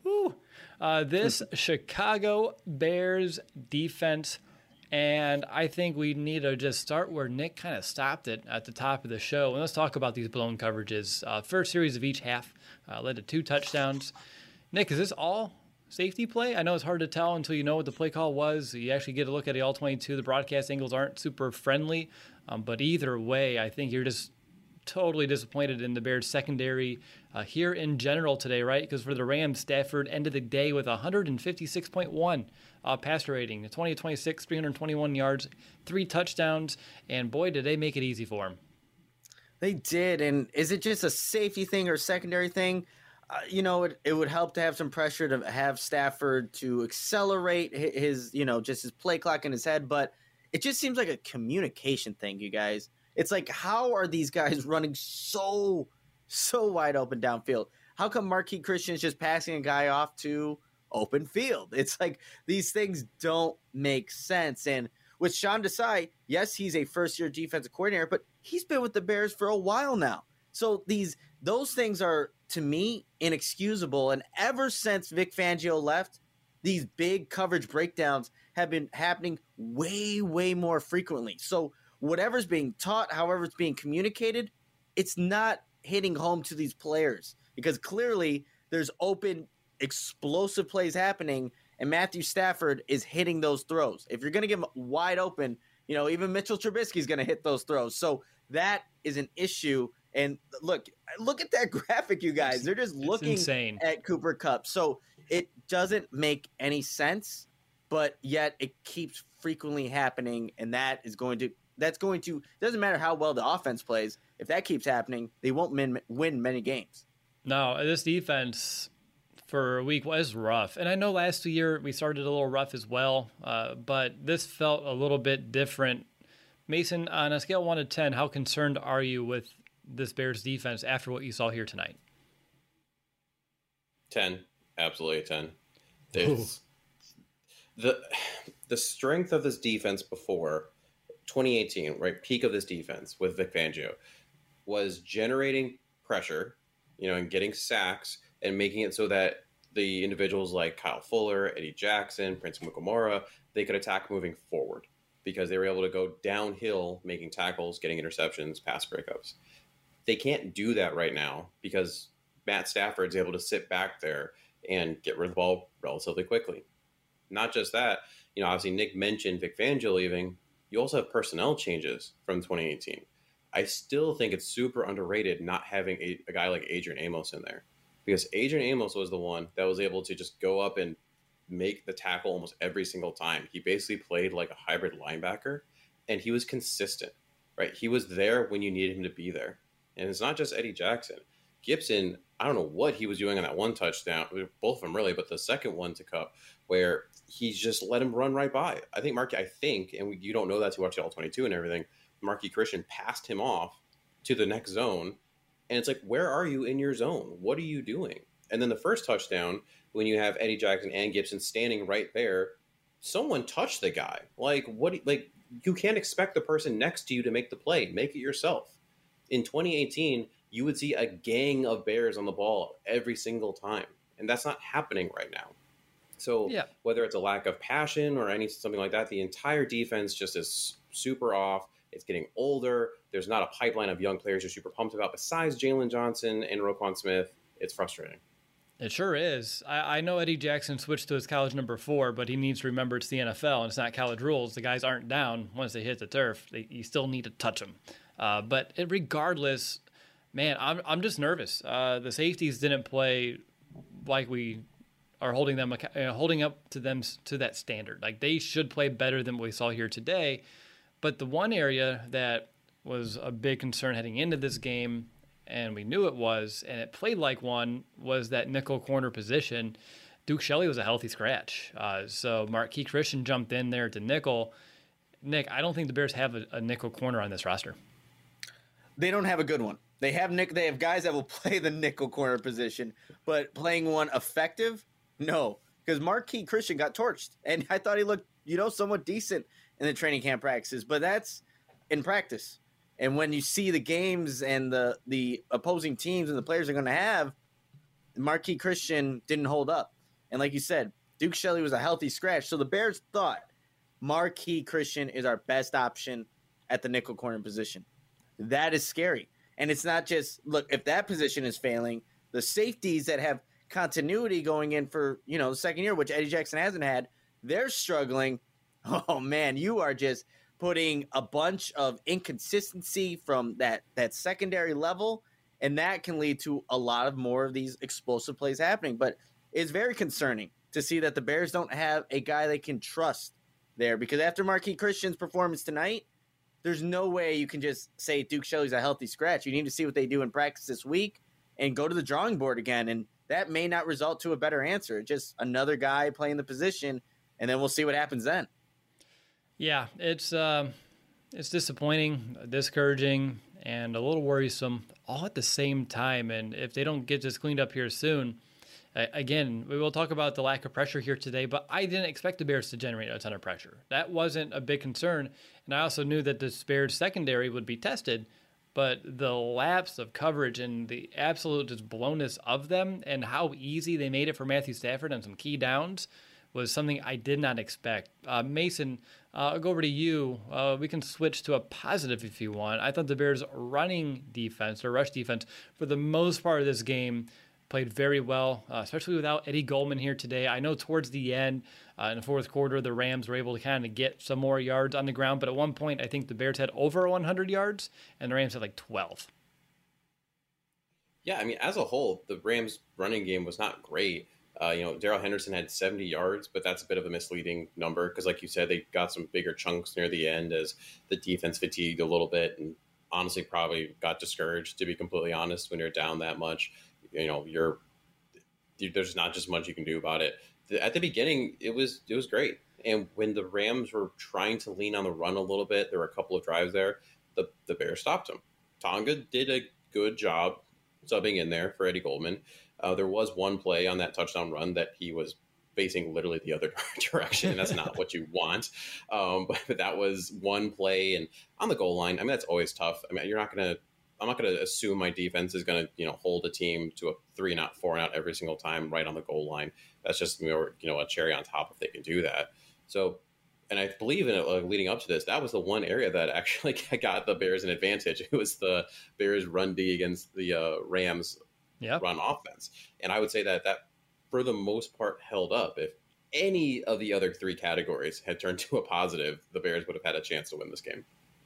this Chicago Bears defense. And I think we need to just start where Nick kind of stopped it at the top of the show. And let's talk about these blown coverages. First series of each half led to 2 touchdowns. Nick, is this all safety play? I know it's hard to tell until you know what the play call was. You actually get a look at the all-22. The broadcast angles aren't super friendly. But either way, I think you're just totally disappointed in the Bears secondary here in general today, right? Because for the Rams, Stafford ended the day with 156.1 passer rating, 20-26, 321 yards, 3 touchdowns, and boy, did they make it easy for him. They did, and is it just a safety thing or a secondary thing? It would help to have some pressure to have Stafford to accelerate his, just his play clock in his head, but it just seems like a communication thing, you guys. It's like, how are these guys running so wide open downfield? How come Marquise Christian is just passing a guy off to open field? It's like these things don't make sense. And with Sean Desai, yes, he's a first-year defensive coordinator, but he's been with the Bears for a while now. So those things are, to me, inexcusable. And ever since Vic Fangio left, these big coverage breakdowns have been happening way, way more frequently. So whatever's being taught, however it's being communicated, it's not hitting home to these players because clearly there's open, explosive plays happening, and Matthew Stafford is hitting those throws. If you're going to give him wide open, even Mitchell Trubisky is going to hit those throws. So that is an issue. And look at that graphic, you guys. They're just looking insane at Cooper Kupp. So it doesn't make any sense, but yet it keeps frequently happening, and that's going to doesn't matter how well the offense plays. If that keeps happening, they won't win many games. No, this defense for a week was rough. And I know last year we started a little rough as well, but this felt a little bit different. Mason, on a scale of 1 to 10, how concerned are you with this Bears defense after what you saw here tonight? 10. Absolutely 10. The strength of this defense before 2018, right, peak of this defense with Vic Fangio, was generating pressure, and getting sacks and making it so that the individuals like Kyle Fuller, Eddie Jackson, Prince Mukamura, they could attack moving forward because they were able to go downhill, making tackles, getting interceptions, pass breakups. They can't do that right now because Matt Stafford's able to sit back there and get rid of the ball relatively quickly. Not just that, obviously Nick mentioned Vic Fangio leaving. You also have personnel changes from 2018. I still think it's super underrated not having a guy like Adrian Amos in there, because Adrian Amos was the one that was able to just go up and make the tackle almost every single time. He basically played like a hybrid linebacker, and he was consistent, right? He was there when you needed him to be there. And it's not just Eddie Jackson. Gibson, I don't know what he was doing on that one touchdown, both of them really, but the second one to Kupp, where he just let him run right by. I think, and you don't know that to watch it all 22 and everything, Marquis Christian passed him off to the next zone. And it's like, where are you in your zone? What are you doing? And then the first touchdown, when you have Eddie Jackson and Gibson standing right there, someone touched the guy. You can't expect the person next to you to make the play. Make it yourself. In 2018, you would see a gang of Bears on the ball every single time. And that's not happening right now. So whether it's a lack of passion or something like that, the entire defense just is super off. It's getting older. There's not a pipeline of young players you're super pumped about besides Jalen Johnson and Roquan Smith. It's frustrating. It sure is. I know Eddie Jackson switched to his college number 4, but he needs to remember it's the NFL and it's not college rules. The guys aren't down once they hit the turf. You still need to touch them. But regardless, man, I'm just nervous. The safeties didn't play like we are holding up to them to that standard. Like, they should play better than what we saw here today. But the one area that was a big concern heading into this game, and we knew it was, and it played like one, was that nickel corner position. Duke Shelley was a healthy scratch. So Marquis Christian jumped in there to nickel. Nick, I don't think the Bears have a nickel corner on this roster. They don't have a good one. They have guys that will play the nickel corner position, but playing one effective, no. Because Marquis Christian got torched, and I thought he looked, somewhat decent in the training camp practices, but that's in practice. And when you see the games and the opposing teams and the players are going to have, Marquis Christian didn't hold up. And like you said, Duke Shelley was a healthy scratch. So the Bears thought Marquis Christian is our best option at the nickel corner position. That is scary. And it's not just, look, if that position is failing, the safeties that have continuity going in for, the second year, which Eddie Jackson hasn't had, they're struggling. Oh, man, you are just putting a bunch of inconsistency from that secondary level, and that can lead to a lot of more of these explosive plays happening. But it's very concerning to see that the Bears don't have a guy they can trust there, because after Marquis Christian's performance tonight, there's no way you can just say Duke Shelley's a healthy scratch. You need to see what they do in practice this week and go to the drawing board again, and that may not result to a better answer. Just another guy playing the position, and then we'll see what happens then. Yeah, it's disappointing, discouraging, and a little worrisome all at the same time. And if they don't get this cleaned up here soon, again, we will talk about the lack of pressure here today, but I didn't expect the Bears to generate a ton of pressure. That wasn't a big concern. And I also knew that the Bears secondary would be tested, but the lapse of coverage and the absolute just blownness of them and how easy they made it for Matthew Stafford on some key downs was something I did not expect. Mason, I'll go over to you. We can switch to a positive if you want. I thought the Bears' running defense, or rush defense, for the most part of this game, played very well, especially without Eddie Goldman here today. I know towards the end, in the fourth quarter, the Rams were able to kind of get some more yards on the ground, but at one point, I think the Bears had over 100 yards, and the Rams had like 12. Yeah, I mean, as a whole, the Rams' running game was not great. Darrell Henderson had 70 yards, but that's a bit of a misleading number because, like you said, they got some bigger chunks near the end as the defense fatigued a little bit and honestly probably got discouraged, to be completely honest, when you're down that much. There's not just much you can do about it. At the beginning, it was great. And when the Rams were trying to lean on the run a little bit, there were a couple of drives there, the Bears stopped them. Tonga did a good job subbing in there for Eddie Goldman. There was one play on that touchdown run that he was facing literally the other direction, and that's not what you want. But that was one play, and on the goal line, I mean, that's always tough. I mean, you're not going to I'm not going to assume my defense is going to hold a team to a 3-and-out, 4-and-out every single time right on the goal line. That's just more a cherry on top if they can do that. So, and I believe in it, leading up to this, that was the one area that actually got the Bears an advantage. It was the Bears run D against the Rams run offense, and I would say that for the most part held up. If any of the other three categories had turned to a positive, the Bears would have had a chance to win this game.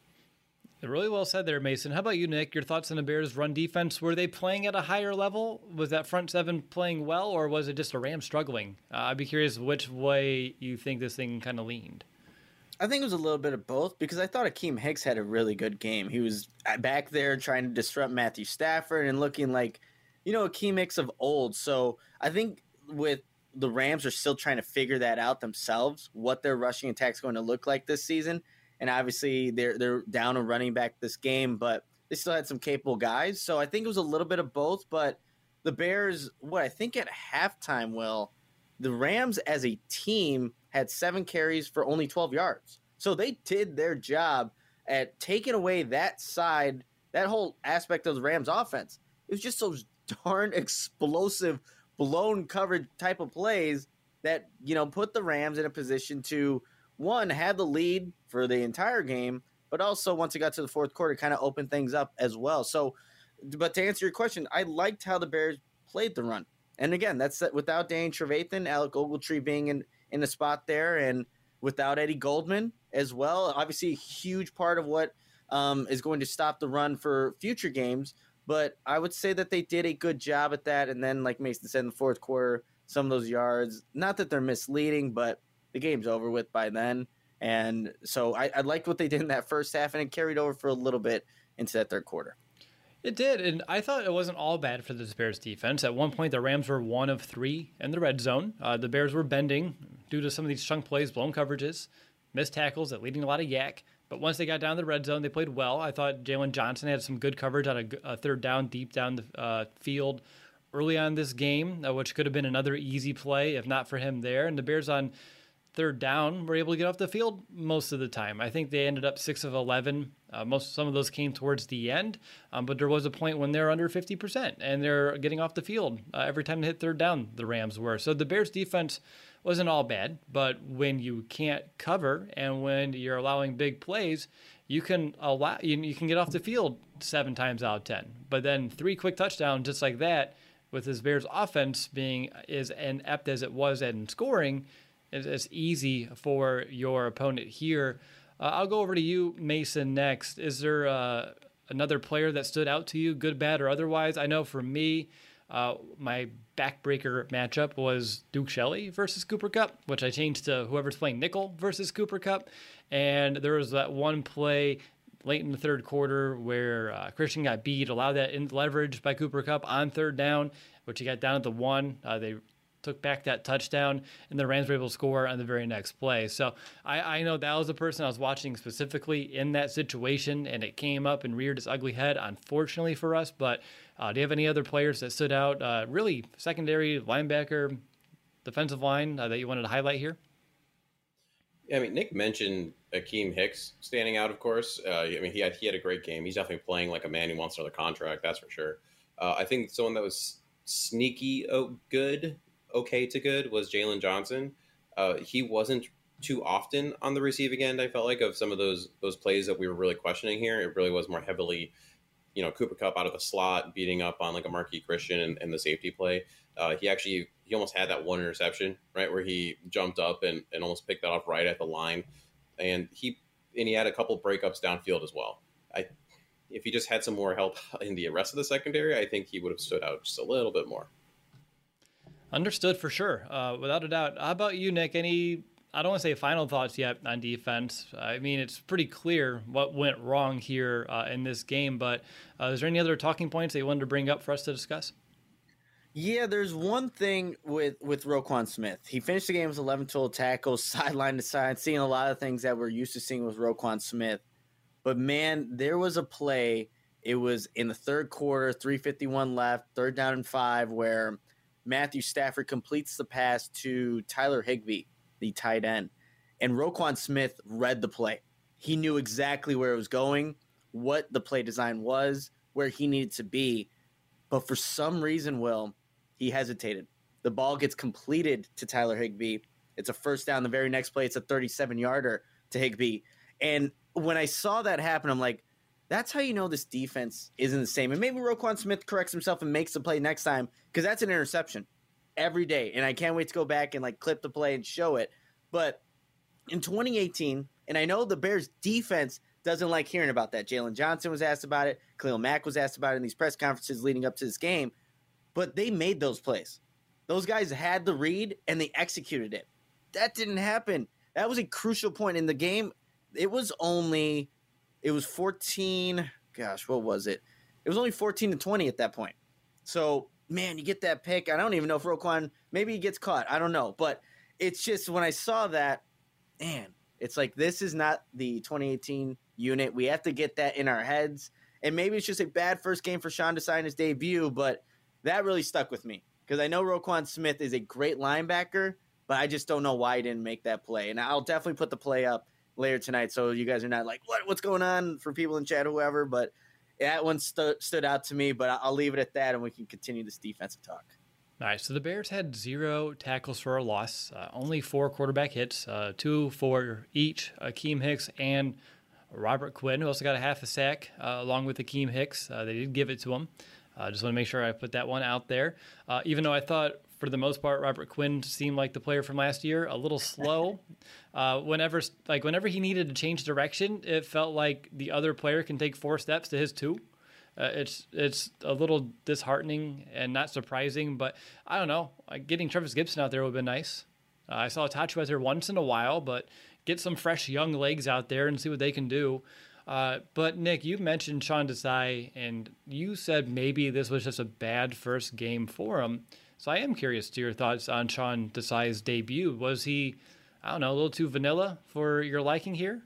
Really well said there, Mason. How about you, Nick? Your thoughts on the Bears' run defense? Were they playing at a higher level? Was that front seven playing well, or was it just a Rams struggling? I'd be curious which way you think this thing kind of leaned. I think it was a little bit of both because I thought Akeem Hicks had a really good game. He was back there trying to disrupt Matthew Stafford and looking like, Akeem Hicks of old. So I think with the Rams are still trying to figure that out themselves, what their rushing attack is going to look like this season. And obviously they're down a running back this game, but they still had some capable guys. So I think it was a little bit of both. But the Bears, I think at halftime, the Rams as a team had 7 carries for only 12 yards. So they did their job at taking away that side, that whole aspect of the Rams offense. It was just those darn explosive, blown coverage type of plays that, put the Rams in a position to, one, have the lead for the entire game, but also once it got to the fourth quarter, kind of opened things up as well. So, but to answer your question, I liked how the Bears played the run. And again, that's without Danny Trevathan, Alec Ogletree being in the spot there, and without Eddie Goldman as well. Obviously, a huge part of what is going to stop the run for future games. But I would say that they did a good job at that. And then, like Mason said, in the fourth quarter, some of those yards, not that they're misleading, but the game's over with by then. And so I liked what they did in that first half, and it carried over for a little bit into that third quarter. It did, and I thought it wasn't all bad for the Bears defense. At one point, the Rams were 1 of 3 in the red zone. The Bears were bending due to some of these chunk plays, blown coverages, missed tackles, that leading a lot of yak. But once they got down to the red zone, they played well. I thought Jalen Johnson had some good coverage on a third down, deep down the field early on this game, which could have been another easy play if not for him there. And the Bears on third down were able to get off the field most of the time. I think they ended up 6 of 11. Some of those came towards the end, but there was a point when they're under 50% and they're getting off the field every time they hit third down. The Rams were. So the Bears defense wasn't all bad, but when you can't cover and when you're allowing big plays, you can get off the field 7 times out of 10. But then 3 quick touchdowns just like that, with this Bears offense being as inept as it was in scoring, it's easy for your opponent here. I'll go over to you, Mason, next. Is there another player that stood out to you, good, bad, or otherwise? I know for me, my backbreaker matchup was Duke Shelley versus Cooper Kupp, which I changed to whoever's playing nickel versus Cooper Kupp. And there was that one play late in the third quarter where Christian got beat, allowed that in leverage by Cooper Kupp on third down, which he got down at the 1. They took back that touchdown, and the Rams were able to score on the very next play. So I know that was the person I was watching specifically in that situation, and it came up and reared its ugly head, unfortunately for us. But do you have any other players that stood out, really secondary, linebacker, defensive line, that you wanted to highlight here? Yeah, I mean, Nick mentioned Akeem Hicks standing out, of course. He had a great game. He's definitely playing like a man who wants another contract, that's for sure. I think someone that was sneaky okay to good was Jalen Johnson. He wasn't too often on the receiving end, I felt like, of some of those plays that we were really questioning here. It really was more heavily, Cooper Kupp out of the slot, beating up on like a Marquis Christian and the safety play. He almost had that one interception, right, where he jumped up and almost picked that off right at the line. And he had a couple breakups downfield as well. If he just had some more help in the rest of the secondary, I think he would have stood out just a little bit more. Understood for sure, without a doubt. How about you, Nick? I don't want to say final thoughts yet on defense. I mean, it's pretty clear what went wrong here in this game, but is there any other talking points that you wanted to bring up for us to discuss? Yeah, there's one thing with Roquan Smith. He finished the game with 11 total tackles, sideline to side, seeing a lot of things that we're used to seeing with Roquan Smith. But, man, there was a play. It was in the third quarter, 3:51 left, 3rd down and 5, where Matthew Stafford completes the pass to Tyler Higbee, the tight end. And Roquan Smith read the play. He knew exactly where it was going, what the play design was, where he needed to be. But for some reason, Will, he hesitated. The ball gets completed to Tyler Higbee. It's a first down. The very next play, it's a 37-yarder to Higbee. And when I saw that happen, I'm like, that's how you know this defense isn't the same. And maybe Roquan Smith corrects himself and makes the play next time, because that's an interception every day. And I can't wait to go back and like clip the play and show it. But in 2018, and I know the Bears defense doesn't like hearing about that. Jalen Johnson was asked about it. Khalil Mack was asked about it in these press conferences leading up to this game. But they made those plays. Those guys had the read, and they executed it. That didn't happen. That was a crucial point in the game. It was 14. Gosh, what was it? It was only 14-20 at that point. So, man, you get that pick. I don't even know if Roquan, maybe he gets caught. I don't know. But it's just when I saw that, man, it's like this is not the 2018 unit. We have to get that in our heads. And maybe it's just a bad first game for Sean Desai in his debut, but that really stuck with me because I know Roquan Smith is a great linebacker, but I just don't know why he didn't make that play. And I'll definitely put the play up later tonight so you guys are not like, what's going on for people in chat, whoever. But that one stood out to me, but I'll leave it at that, and we can continue this defensive talk. All right, so the Bears had 0 tackles for a loss, only 4 quarterback hits, 2 for each, Akeem Hicks and Robert Quinn, who also got a half a sack along with Akeem Hicks. They did give it to him. Just want to make sure I put that one out there. Even though I thought, for the most part, Robert Quinn seemed like the player from last year, a little slow. Whenever he needed to change direction, it felt like the other player can take 4 steps to his 2. It's a little disheartening and not surprising, but I don't know. Getting Travis Gibson out there would have been nice. I saw Tachi out there once in a while, but get some fresh young legs out there and see what they can do. But Nick, you mentioned Sean Desai, and you said maybe this was just a bad first game for him. So I am curious to your thoughts on Sean Desai's debut. Was he, I don't know, a little too vanilla for your liking here?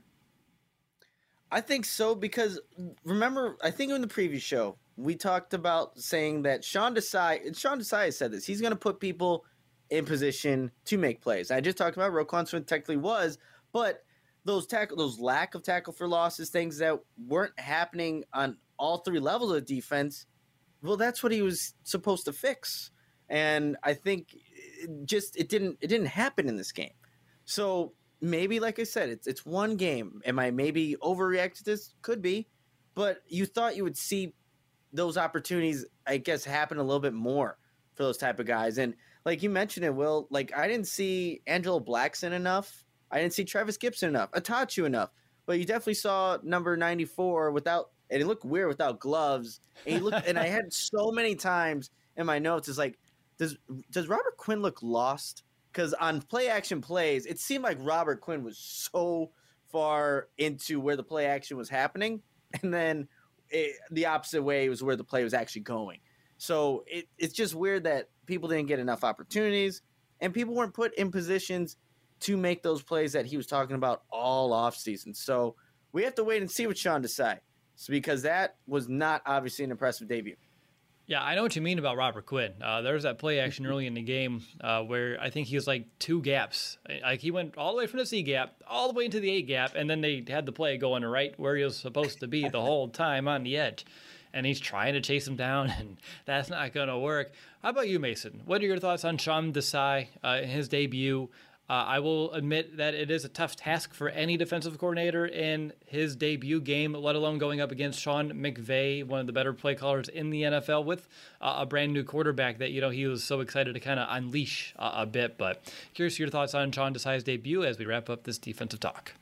I think so, because remember, I think in the previous show, we talked about saying that Sean Desai has said this, he's going to put people in position to make plays. I just talked about Roquan Smith technically was, but those lack of tackle for losses, things that weren't happening on all 3 levels of defense, well, that's what he was supposed to fix. And I think it didn't happen in this game. So maybe, like I said, it's one game. Am I maybe overreact to this? Could be. But you thought you would see those opportunities, I guess, happen a little bit more for those type of guys. And like you mentioned it, Will, like I didn't see Angelo Blackson enough. I didn't see Travis Gibson enough. Atachu enough. But you definitely saw number 94 without, and it looked weird without gloves. And he looked, and I had so many times in my notes, it's like, does Robert Quinn look lost? Because on play action plays, it seemed like Robert Quinn was so far into where the play action was happening, and then the opposite way was where the play was actually going. So it's just weird that people didn't get enough opportunities, and people weren't put in positions to make those plays that he was talking about all offseason. So we have to wait and see what Sean Desai, because that was not obviously an impressive debut. Yeah, I know what you mean about Robert Quinn. There was that play action early in the game where I think he was like 2 gaps. Like he went all the way from the C gap all the way into the A gap, and then they had the play going right where he was supposed to be the whole time on the edge. And he's trying to chase him down, and that's not going to work. How about you, Mason? What are your thoughts on Sean Desai in his debut? I will admit that it is a tough task for any defensive coordinator in his debut game, let alone going up against Sean McVay, one of the better play callers in the NFL, with a brand new quarterback that, he was so excited to kind of unleash a bit. But curious your thoughts on Sean Desai's debut as we wrap up this defensive talk.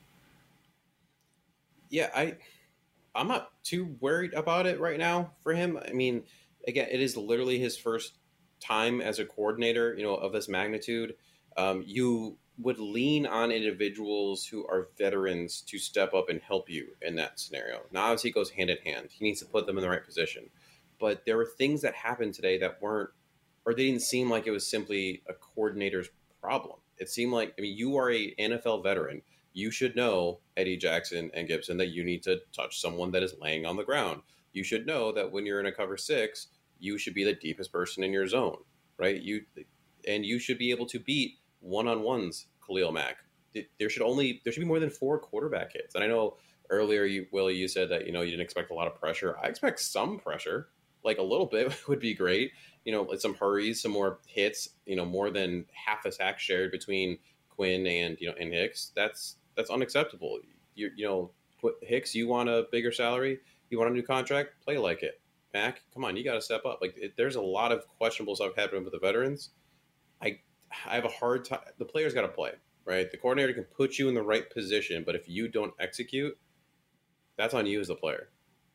Yeah, I'm not too worried about it right now for him. I mean, again, it is literally his first time as a coordinator, of this magnitude. You would lean on individuals who are veterans to step up and help you in that scenario. Now, obviously, it goes hand in hand. He needs to put them in the right position. But there were things that happened today that weren't, or they didn't seem like it was simply a coordinator's problem. It seemed like, you are a NFL veteran. You should know, Eddie Jackson and Gibson, that you need to touch someone that is laying on the ground. You should know that when you're in a cover 6, you should be the deepest person in your zone, right? You should be able to beat one-on-ones Khalil Mack. There should be more than 4 quarterback hits. And I know earlier, Willie, you said that, you didn't expect a lot of pressure. I expect some pressure, like a little bit would be great. Like some hurries, some more hits, more than half a sack shared between Quinn and Hicks. That's unacceptable. Hicks, you want a bigger salary? You want a new contract? Play like it. Mac, come on, you got to step up. There's a lot of questionable stuff happening with the veterans. I have a hard time. The players got to play, right? The coordinator can put you in the right position, but if you don't execute, that's on you as the player.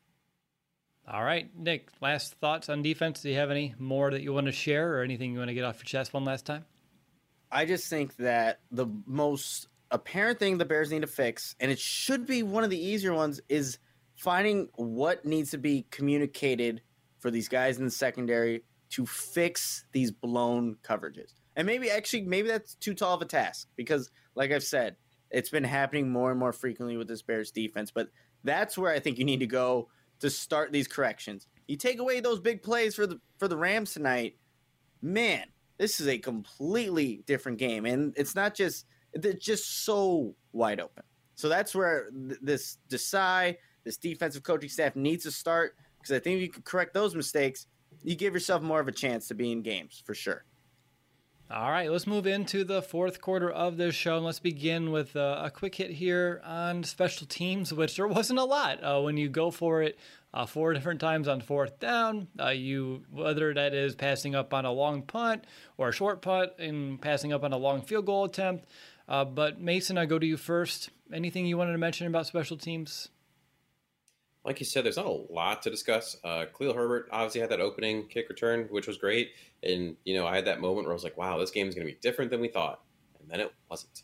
All right, Nick, last thoughts on defense. Do you have any more that you want to share or anything you want to get off your chest one last time? I just think that the most apparent thing the Bears need to fix, and it should be one of the easier ones, is finding what needs to be communicated for these guys in the secondary to fix these blown coverages. And maybe that's too tall of a task because, like I've said, it's been happening more and more frequently with this Bears defense. But that's where I think you need to go to start these corrections. You take away those big plays for the Rams tonight, man, this is a completely different game. And it's just so wide open. So that's where this Desai, this defensive coaching staff needs to start, because I think if you can correct those mistakes, you give yourself more of a chance to be in games for sure. All right, let's move into the fourth quarter of this show, and let's begin with a quick hit here on special teams, which there wasn't a lot. When you go for it 4 different times on fourth down, whether that is passing up on a long punt or a short punt and passing up on a long field goal attempt. But Mason, I go to you first. Anything you wanted to mention about special teams? Like you said, there's not a lot to discuss. Khalil Herbert obviously had that opening kick return, which was great. And, I had that moment where I was like, wow, this game is going to be different than we thought. And then it wasn't.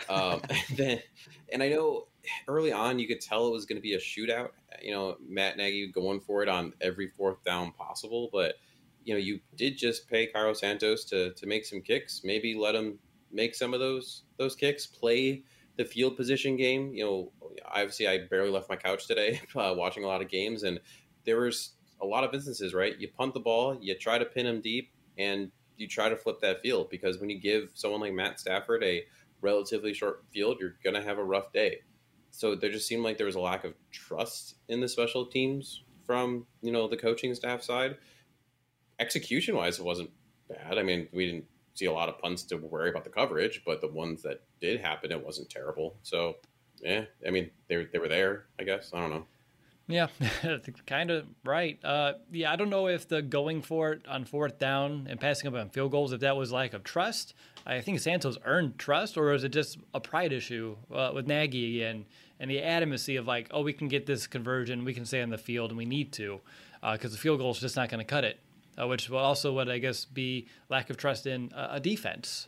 And I know early on you could tell it was going to be a shootout. Matt Nagy going for it on every fourth down possible. But, you did just pay Cairo Santos to make some kicks. Maybe let him make some of those kicks, play the field position game. Obviously I barely left my couch today watching a lot of games, and there was a lot of instances, right? You punt the ball, you try to pin him deep, and you try to flip that field, because when you give someone like Matt Stafford a relatively short field, you're going to have a rough day. So there just seemed like there was a lack of trust in the special teams from, the coaching staff side. Execution wise, it wasn't bad. I mean, we didn't see a lot of punts to worry about the coverage, but the ones that did happen, it wasn't terrible. So, yeah, I mean, they were there, I guess. I don't know. Yeah, kind of right. I don't know if the going for it on fourth down and passing up on field goals, if that was lack of trust. I think Santos earned trust, or is it just a pride issue with Nagy and the adamancy of we can get this conversion, we can stay on the field, and we need to, because the field goal is just not going to cut it. Which will also would, I guess, be lack of trust in a defense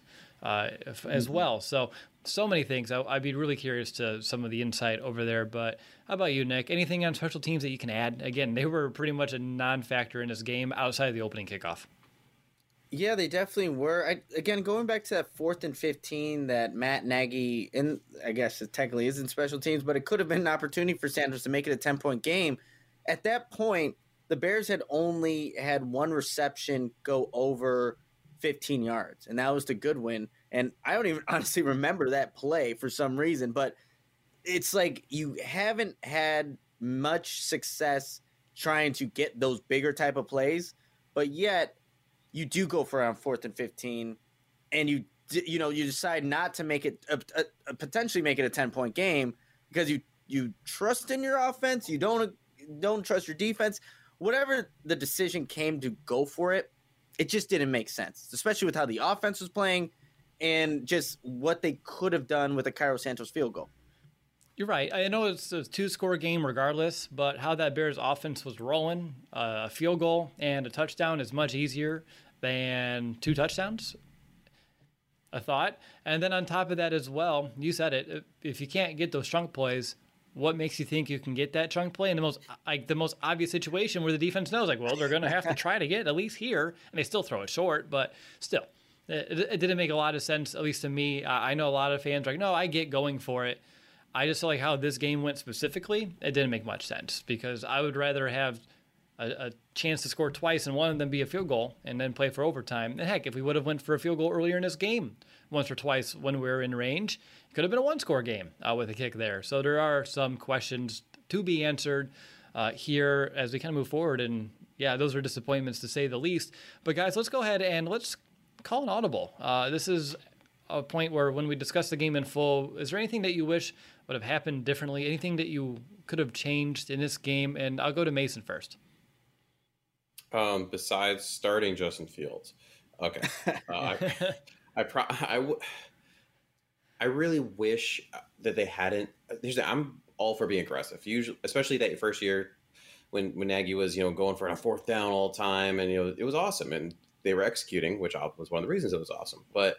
as well. So many things. I'd be really curious to some of the insight over there. But how about you, Nick? Anything on special teams that you can add? Again, they were pretty much a non-factor in this game outside of the opening kickoff. Yeah, they definitely were. Again, going back to that 4th and 15 that Matt Nagy, and I guess it technically isn't special teams, but it could have been an opportunity for Santos to make it a 10-point game. At that point, the Bears had only had one reception go over 15 yards, and that was to Goodwin. And I don't even honestly remember that play for some reason, but it's like you haven't had much success trying to get those bigger type of plays, but yet you do go for around 4th and 15, and you decide not to make it potentially make it a 10-point game because you trust in your offense, you don't trust your defense. Whatever the decision came to go for it, it just didn't make sense, especially with how the offense was playing and just what they could have done with a Cairo Santos field goal. You're right. I know it's a 2-score game regardless, but how that Bears offense was rolling, a field goal and a touchdown is much easier than 2 touchdowns, I thought. And then on top of that as well, you said it, if you can't get those chunk plays, what makes you think you can get that chunk play in the most obvious situation where the defense knows, they're going to have to try to get at least here, and they still throw it short, but still, it didn't make a lot of sense, at least to me. I know a lot of fans are like, no, I get going for it. I just feel like how this game went specifically, it didn't make much sense, because I would rather have a chance to score twice and one of them be a field goal and then play for overtime. And heck, if we would have went for a field goal earlier in this game, once or twice when we were in range, it could have been a one-score game with a kick there. So there are some questions to be answered here as we kind of move forward. And yeah, those are disappointments to say the least. But guys, let's go ahead and let's call an audible. This is a point where when we discuss the game in full, is there anything that you wish would have happened differently? Anything that you could have changed in this game? And I'll go to Mason first. Besides starting Justin Fields. Okay. I really wish that they hadn't. I'm all for being aggressive. Usually, especially that first year when Nagy was, going for a fourth down all the time, and it was awesome, and they were executing, which was one of the reasons it was awesome. But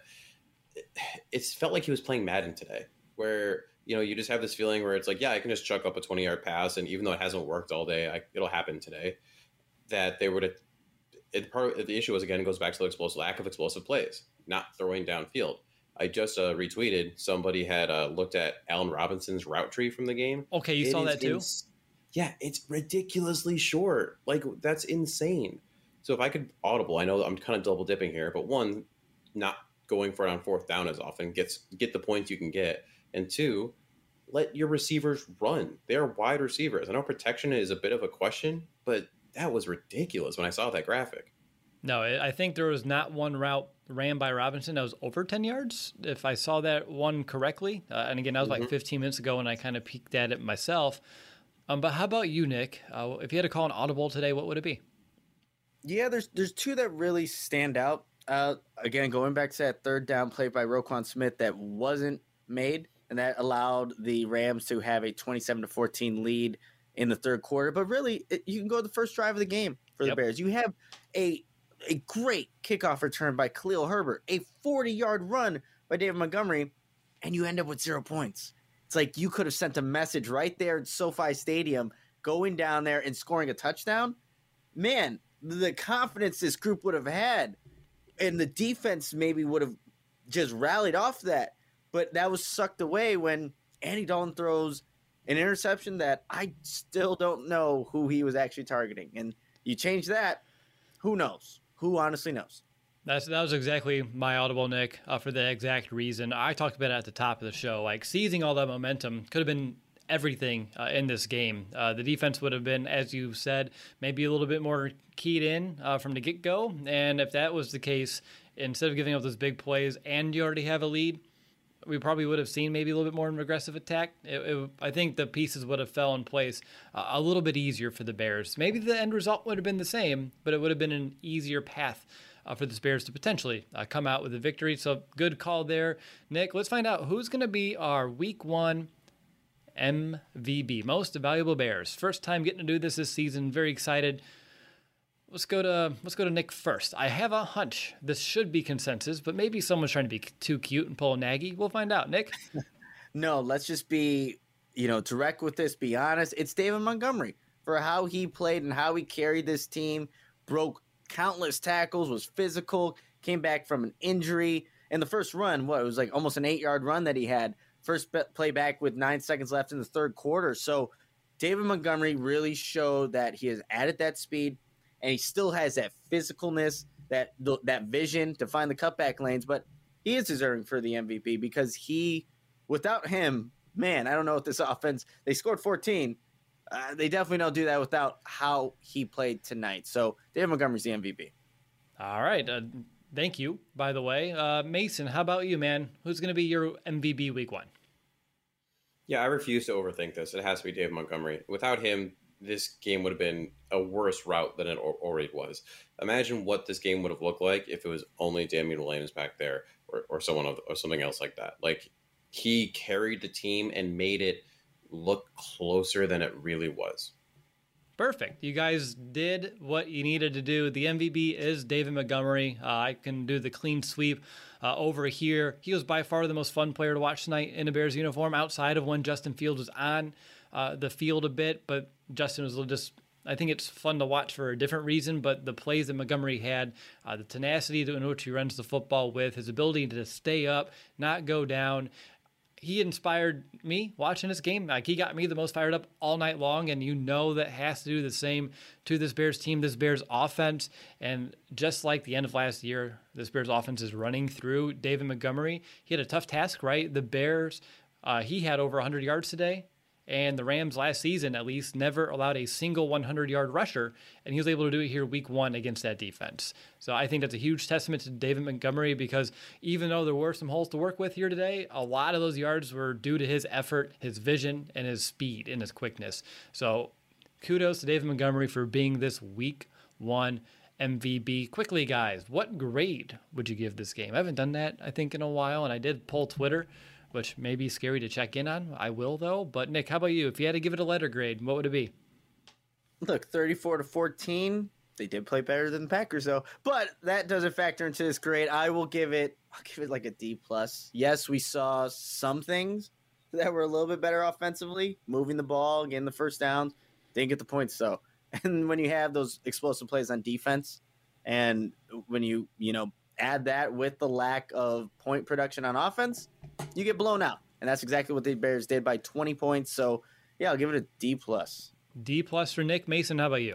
it felt like he was playing Madden today, where you just have this feeling where it's like, yeah, I can just chuck up a 20-yard pass, and even though it hasn't worked all day, it'll happen today. That they would have. Part of the issue was, again, goes back to the lack of explosive plays, not throwing downfield. I just retweeted, somebody had looked at Allen Robinson's route tree from the game. Okay, you saw that too? Yeah, it's ridiculously short. Like, that's insane. So if I could audible, I know I'm kind of double dipping here, but one, not going for it on fourth down as often, get the points you can get. And two, let your receivers run. They're wide receivers. I know protection is a bit of a question, but that was ridiculous when I saw that graphic. No, I think there was not one route ran by Robinson that was over 10 yards, if I saw that one correctly. And again, that was like 15 minutes ago, and I kind of peeked at it myself. But how about you, Nick? If you had to call an audible today, what would it be? Yeah, there's two that really stand out. Again, going back to that third down play by Roquan Smith that wasn't made, and that allowed the Rams to have a 27-14 lead in the third quarter. But really, you can go to the first drive of the game for the Bears. You have a great kickoff return by Khalil Herbert, a 40-yard run by David Montgomery, and you end up with 0 points. It's like you could have sent a message right there at SoFi Stadium, going down there and scoring a touchdown. Man, the confidence this group would have had, and the defense maybe would have just rallied off that. But that was sucked away when Andy Dalton throws an interception that I still don't know who he was actually targeting. And you change that, who knows? Who honestly knows? That was exactly my audible, Nick, for the exact reason. I talked about it at the top of the show. Like, seizing all that momentum could have been everything in this game. The defense would have been, as you said, maybe a little bit more keyed in from the get-go. And if that was the case, instead of giving up those big plays and you already have a lead, we probably would have seen maybe a little bit more of an aggressive attack. I think the pieces would have fell in place a little bit easier for the Bears. Maybe the end result would have been the same, but it would have been an easier path for the Bears to potentially come out with a victory. So good call there, Nick. Let's find out who's going to be our Week 1 MVB, Most Valuable Bears. First time getting to do this season. Very excited. Let's go to Nick first. I have a hunch this should be consensus, but maybe someone's trying to be too cute and pull a Nagy. We'll find out. Nick? No, let's just be, direct with this, be honest. It's David Montgomery for how he played and how he carried this team, broke countless tackles, was physical, came back from an injury. And the first run, it was like almost an 8-yard run that he had. First play back with 9 seconds left in the third quarter. So David Montgomery really showed that he has added that speed, and he still has that physicalness, that vision to find the cutback lanes. But he is deserving for the MVP because without him, man, I don't know what this offense, they scored 14. They definitely don't do that without how he played tonight. So David Montgomery's the MVP. All right. Thank you, by the way. Mason, how about you, man? Who's going to be your MVP Week 1? Yeah, I refuse to overthink this. It has to be David Montgomery. Without him, this game would have been a worse route than it already was. Imagine what this game would have looked like if it was only Damian Williams back there or something else like that. Like, he carried the team and made it look closer than it really was. Perfect. You guys did what you needed to do. The MVP is David Montgomery. I can do the clean sweep over here. He was by far the most fun player to watch tonight in a Bears uniform outside of when Justin Fields was on the field a bit, but Justin was just, I think it's fun to watch for a different reason, but the plays that Montgomery had, the tenacity in which he runs the football with, his ability to stay up, not go down, he inspired me watching this game. Like, he got me the most fired up all night long, and that has to do the same to this Bears team, this Bears offense. And just like the end of last year, this Bears offense is running through David Montgomery. He had a tough task, right? The Bears, he had over 100 yards today. And the Rams last season, at least, never allowed a single 100-yard rusher, and he was able to do it here week 1 against that defense. So I think that's a huge testament to David Montgomery, because even though there were some holes to work with here today, a lot of those yards were due to his effort, his vision, and his speed and his quickness. So kudos to David Montgomery for being this week 1 MVP. Quickly, guys, what grade would you give this game? I haven't done that, I think, in a while, and I did poll Twitter, which may be scary to check in on. I will, though. But, Nick, how about you? If you had to give it a letter grade, what would it be? Look, 34-14. They did play better than the Packers, though. But that doesn't factor into this grade. I'll give it like a D+. Yes, we saw some things that were a little bit better offensively, moving the ball, getting the first downs. Didn't get the points, though. And when you have those explosive plays on defense, and when you add that with the lack of point production on offense, you get blown out. And that's exactly what the Bears did by 20 points. So, yeah, I'll give it a D+. D+ for Nick. Mason, how about you?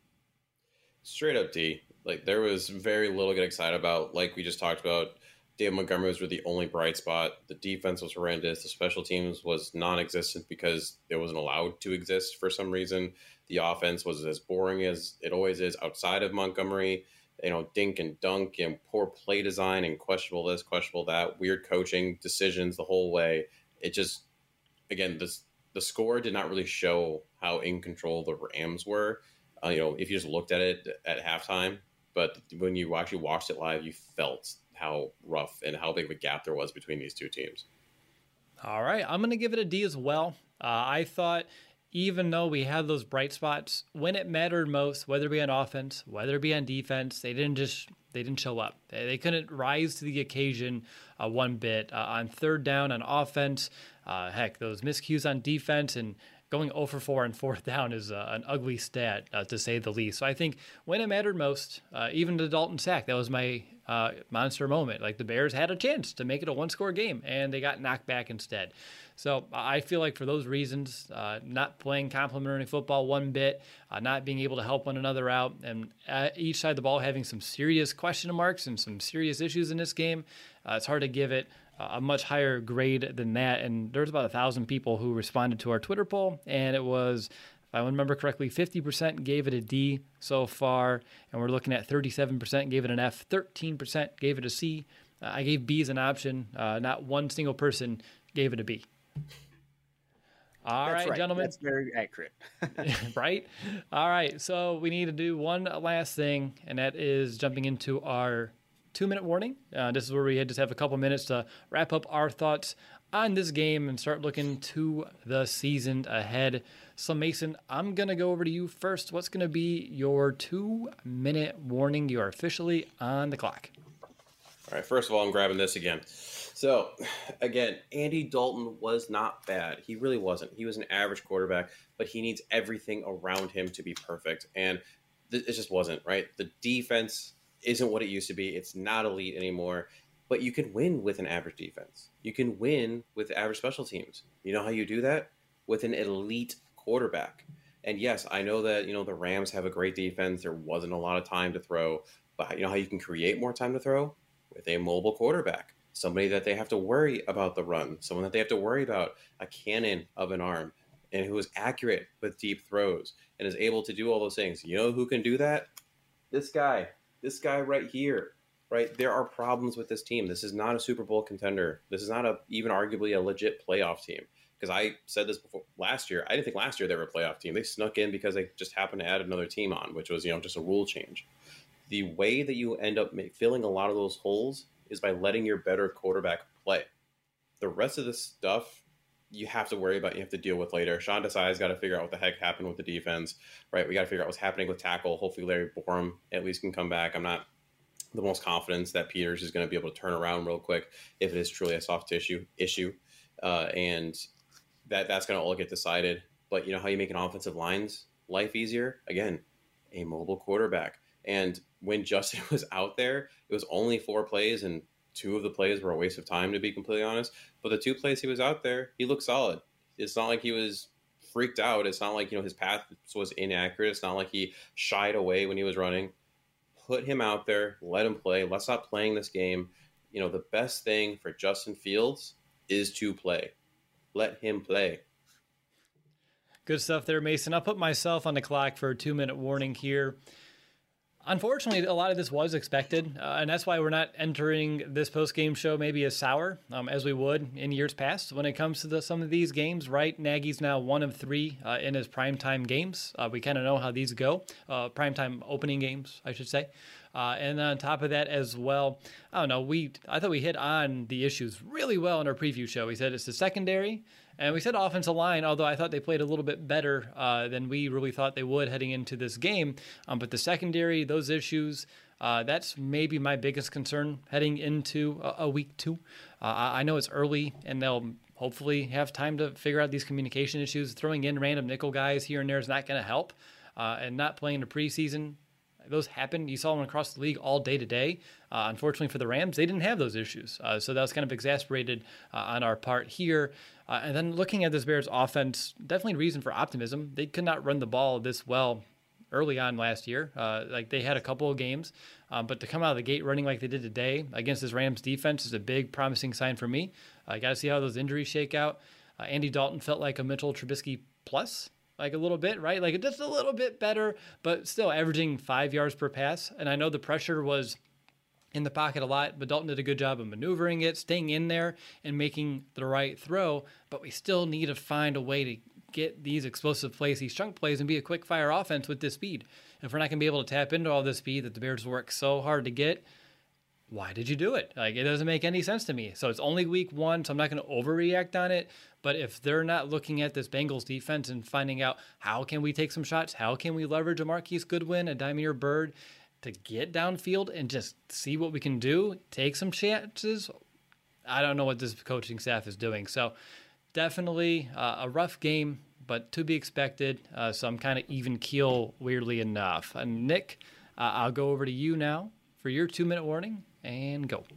Straight up D. Like, there was very little to get excited about. Like we just talked about, David Montgomery was really the only bright spot. The defense was horrendous. The special teams was non-existent because it wasn't allowed to exist for some reason. The offense was as boring as it always is outside of Montgomery. Dink and dunk and poor play design and questionable this, questionable that, weird coaching decisions the whole way. It just, again, the score did not really show how in control the Rams were. If you just looked at it at halftime, but when you actually watched it live, you felt how rough and how big of a gap there was between these two teams. All right, I'm going to give it a D as well. I thought, even though we had those bright spots, when it mattered most, whether it be on offense, whether it be on defense, they didn't show up. They couldn't rise to the occasion one bit. On third down on offense, those miscues on defense, and going 0 for 4 on fourth down is an ugly stat, to say the least. So I think when it mattered most, even the Dalton sack, that was my monster moment. Like, the Bears had a chance to make it a one-score game, and they got knocked back instead. So I feel like for those reasons, not playing complementary football one bit, not being able to help one another out, and each side of the ball having some serious question marks and some serious issues in this game, it's hard to give it a much higher grade than that. And there's about 1,000 people who responded to our Twitter poll, and it was, if I remember correctly, 50% gave it a D so far, and we're looking at 37% gave it an F, 13% gave it a C. I gave B as an option. Not one single person gave it a B. All right, gentlemen. That's very accurate. Right? All right, so we need to do one last thing, and that is jumping into our 2-minute warning. This is where we just have a couple minutes to wrap up our thoughts on this game and start looking to the season ahead. So, Mason, I'm going to go over to you first. What's going to be your 2-minute warning? You are officially on the clock. All right, first of all, I'm grabbing this again. So, again, Andy Dalton was not bad. He really wasn't. He was an average quarterback, but he needs everything around him to be perfect. And it just wasn't, right? The defense isn't what it used to be. It's not elite anymore. But you can win with an average defense. You can win with average special teams. You know how you do that? With an elite quarterback. And yes, I know that, the Rams have a great defense. There wasn't a lot of time to throw. But you know how you can create more time to throw? With a mobile quarterback. Somebody that they have to worry about the run. Someone that they have to worry about a cannon of an arm. And who is accurate with deep throws. And is able to do all those things. You know who can do that? This guy. This guy right here. Right? There are problems with this team. This is not a Super Bowl contender. This is not even arguably a legit playoff team. Because I said this before last year. I didn't think last year they were a playoff team. They snuck in because they just happened to add another team on, which was, just a rule change. The way that you end up filling a lot of those holes is by letting your better quarterback play. The rest of this stuff you have to worry about, you have to deal with later. Sean Desai's got to figure out what the heck happened with the defense, right? We got to figure out what's happening with tackle. Hopefully Larry Borom at least can come back. I'm not the most confident that Peters is going to be able to turn around real quick if it is truly a soft tissue issue. And that's going to all get decided. But you know how you make an offensive line's life easier? Again, a mobile quarterback. And when Justin was out there, it was only 4 plays and two of the plays were a waste of time, to be completely honest. But the two plays he was out there, he looked solid. It's not like he was freaked out. It's not like, his path was inaccurate. It's not like he shied away when he was running. Put him out there, let him play. Let's stop playing this game. The best thing for Justin Fields is to play. Let him play. Good stuff there, Mason. I'll put myself on the clock for a 2-minute warning here. Unfortunately, a lot of this was expected, and that's why we're not entering this post-game show maybe as sour as we would in years past when it comes to some of these games, right? Nagy's now 1 of 3 in his primetime games. We kind of know how these go, primetime opening games, I should say. And on top of that as well, I don't know, I thought we hit on the issues really well in our preview show. We said it's the secondary, and we said offensive line, although I thought they played a little bit better than we really thought they would heading into this game. But the secondary, those issues, that's maybe my biggest concern heading into a week 2. I know it's early, and they'll hopefully have time to figure out these communication issues. Throwing in random nickel guys here and there is not going to help. And not playing the preseason, those happen. You saw them across the league all day today. Unfortunately for the Rams, they didn't have those issues. So that was kind of exasperated on our part here. And then looking at this Bears offense, definitely a reason for optimism. They could not run the ball this well early on last year. They had a couple of games, but to come out of the gate running like they did today against this Rams defense is a big promising sign for me. I got to see how those injuries shake out. Andy Dalton felt like a Mitchell Trubisky plus, like a little bit, right? Like just a little bit better, but still averaging 5 yards per pass. And I know the pressure was in the pocket a lot, but Dalton did a good job of maneuvering it, staying in there and making the right throw. But we still need to find a way to get these explosive plays, these chunk plays, and be a quick fire offense with this speed. If we're not going to be able to tap into all this speed that the Bears work so hard to get, why did you do it? It doesn't make any sense to me. So it's only week 1, so I'm not going to overreact on it. But if they're not looking at this Bengals defense and finding out how can we take some shots, how can we leverage a Marquise Goodwin, a Damiere Byrd to get downfield and just see what we can do, take some chances, I don't know what this coaching staff is doing. So definitely a rough game, but to be expected. So I'm kind of even keel, weirdly enough. And Nick, I'll go over to you now for your 2-minute warning and go.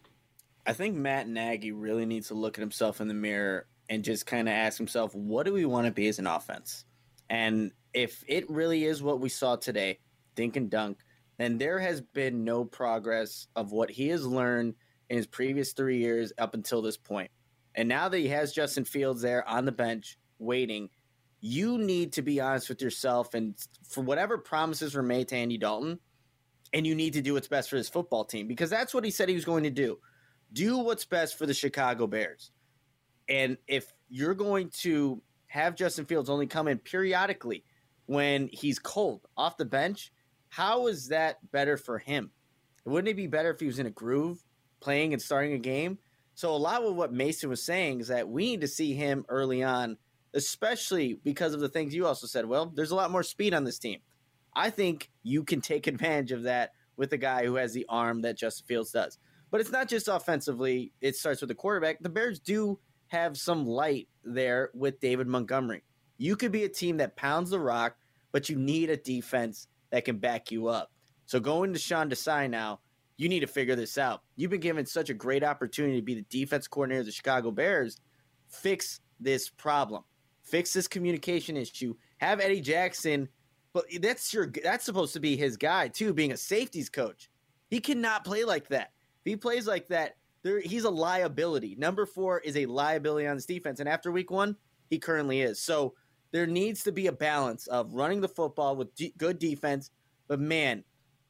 I think Matt Nagy really needs to look at himself in the mirror and just kind of ask himself, what do we want to be as an offense? And if it really is what we saw today, dink and dunk, then there has been no progress of what he has learned in his previous 3 years up until this point. And now that he has Justin Fields there on the bench waiting, you need to be honest with yourself and for whatever promises were made to Andy Dalton, and you need to do what's best for his football team because that's what he said he was going to do. Do what's best for the Chicago Bears. And if you're going to have Justin Fields only come in periodically when he's cold off the bench, how is that better for him? Wouldn't it be better if he was in a groove playing and starting a game? So a lot of what Mason was saying is that we need to see him early on, especially because of the things you also said. Well, there's a lot more speed on this team. I think you can take advantage of that with a guy who has the arm that Justin Fields does. But it's not just offensively. It starts with the quarterback. The Bears do have some light there with David Montgomery. You could be a team that pounds the rock, but you need a defense that can back you up. So going to Sean Desai now, you need to figure this out. You've been given such a great opportunity to be the defense coordinator of the Chicago Bears. Fix this problem. Fix this communication issue. Have Eddie Jackson, but that's supposed to be his guy too, being a safeties coach. He cannot play like that. If he plays like that, he's a liability. Number 4 is a liability on this defense, and after week 1, he currently is. So there needs to be a balance of running the football with good defense, but man,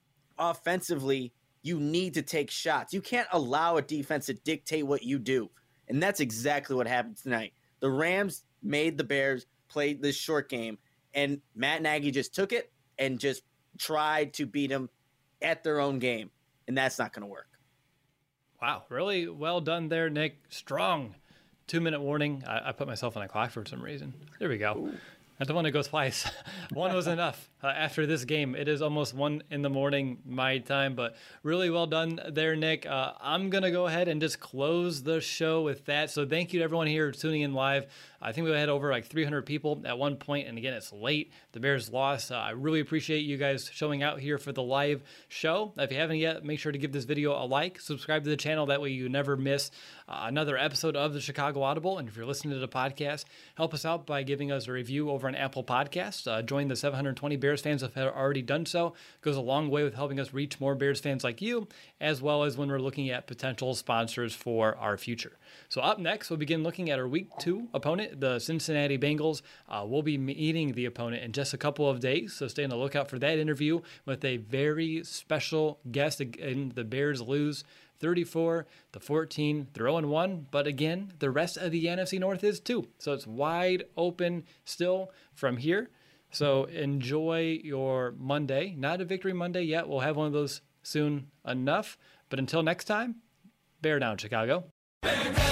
offensively, you need to take shots. You can't allow a defense to dictate what you do, and that's exactly what happened tonight. The Rams made the Bears play this short game, and Matt Nagy just took it and just tried to beat them at their own game, and that's not going to work. Wow, really well done there, Nick. Strong 2-minute warning. I put myself on a clock for some reason. There we go. Ooh. That's the one that goes twice. One was enough. after this game. It is almost 1 a.m. my time, but really well done there, Nick. I'm going to go ahead and just close the show with that. So thank you to everyone here tuning in live. I think we had over like 300 people at one point, and again, it's late. The Bears lost. I really appreciate you guys showing out here for the live show. If you haven't yet, make sure to give this video a like, subscribe to the channel. That way you never miss another episode of the Chicago Audible. And if you're listening to the podcast, help us out by giving us a review over on Apple Podcasts. Join the 720 Bears fans if have already done so. It goes a long way with helping us reach more Bears fans like you, as well as when we're looking at potential sponsors for our future. So up next, we'll begin looking at our Week 2 opponent, the Cincinnati Bengals. We'll be meeting the opponent in just a couple of days, so stay on the lookout for that interview with a very special guest. Again, the Bears lose 34-14. They're 0-1, but again, the rest of the NFC North is too. So it's wide open still from here. So enjoy your Monday. Not a Victory Monday yet. We'll have one of those soon enough. But until next time, bear down, Chicago. Bear down.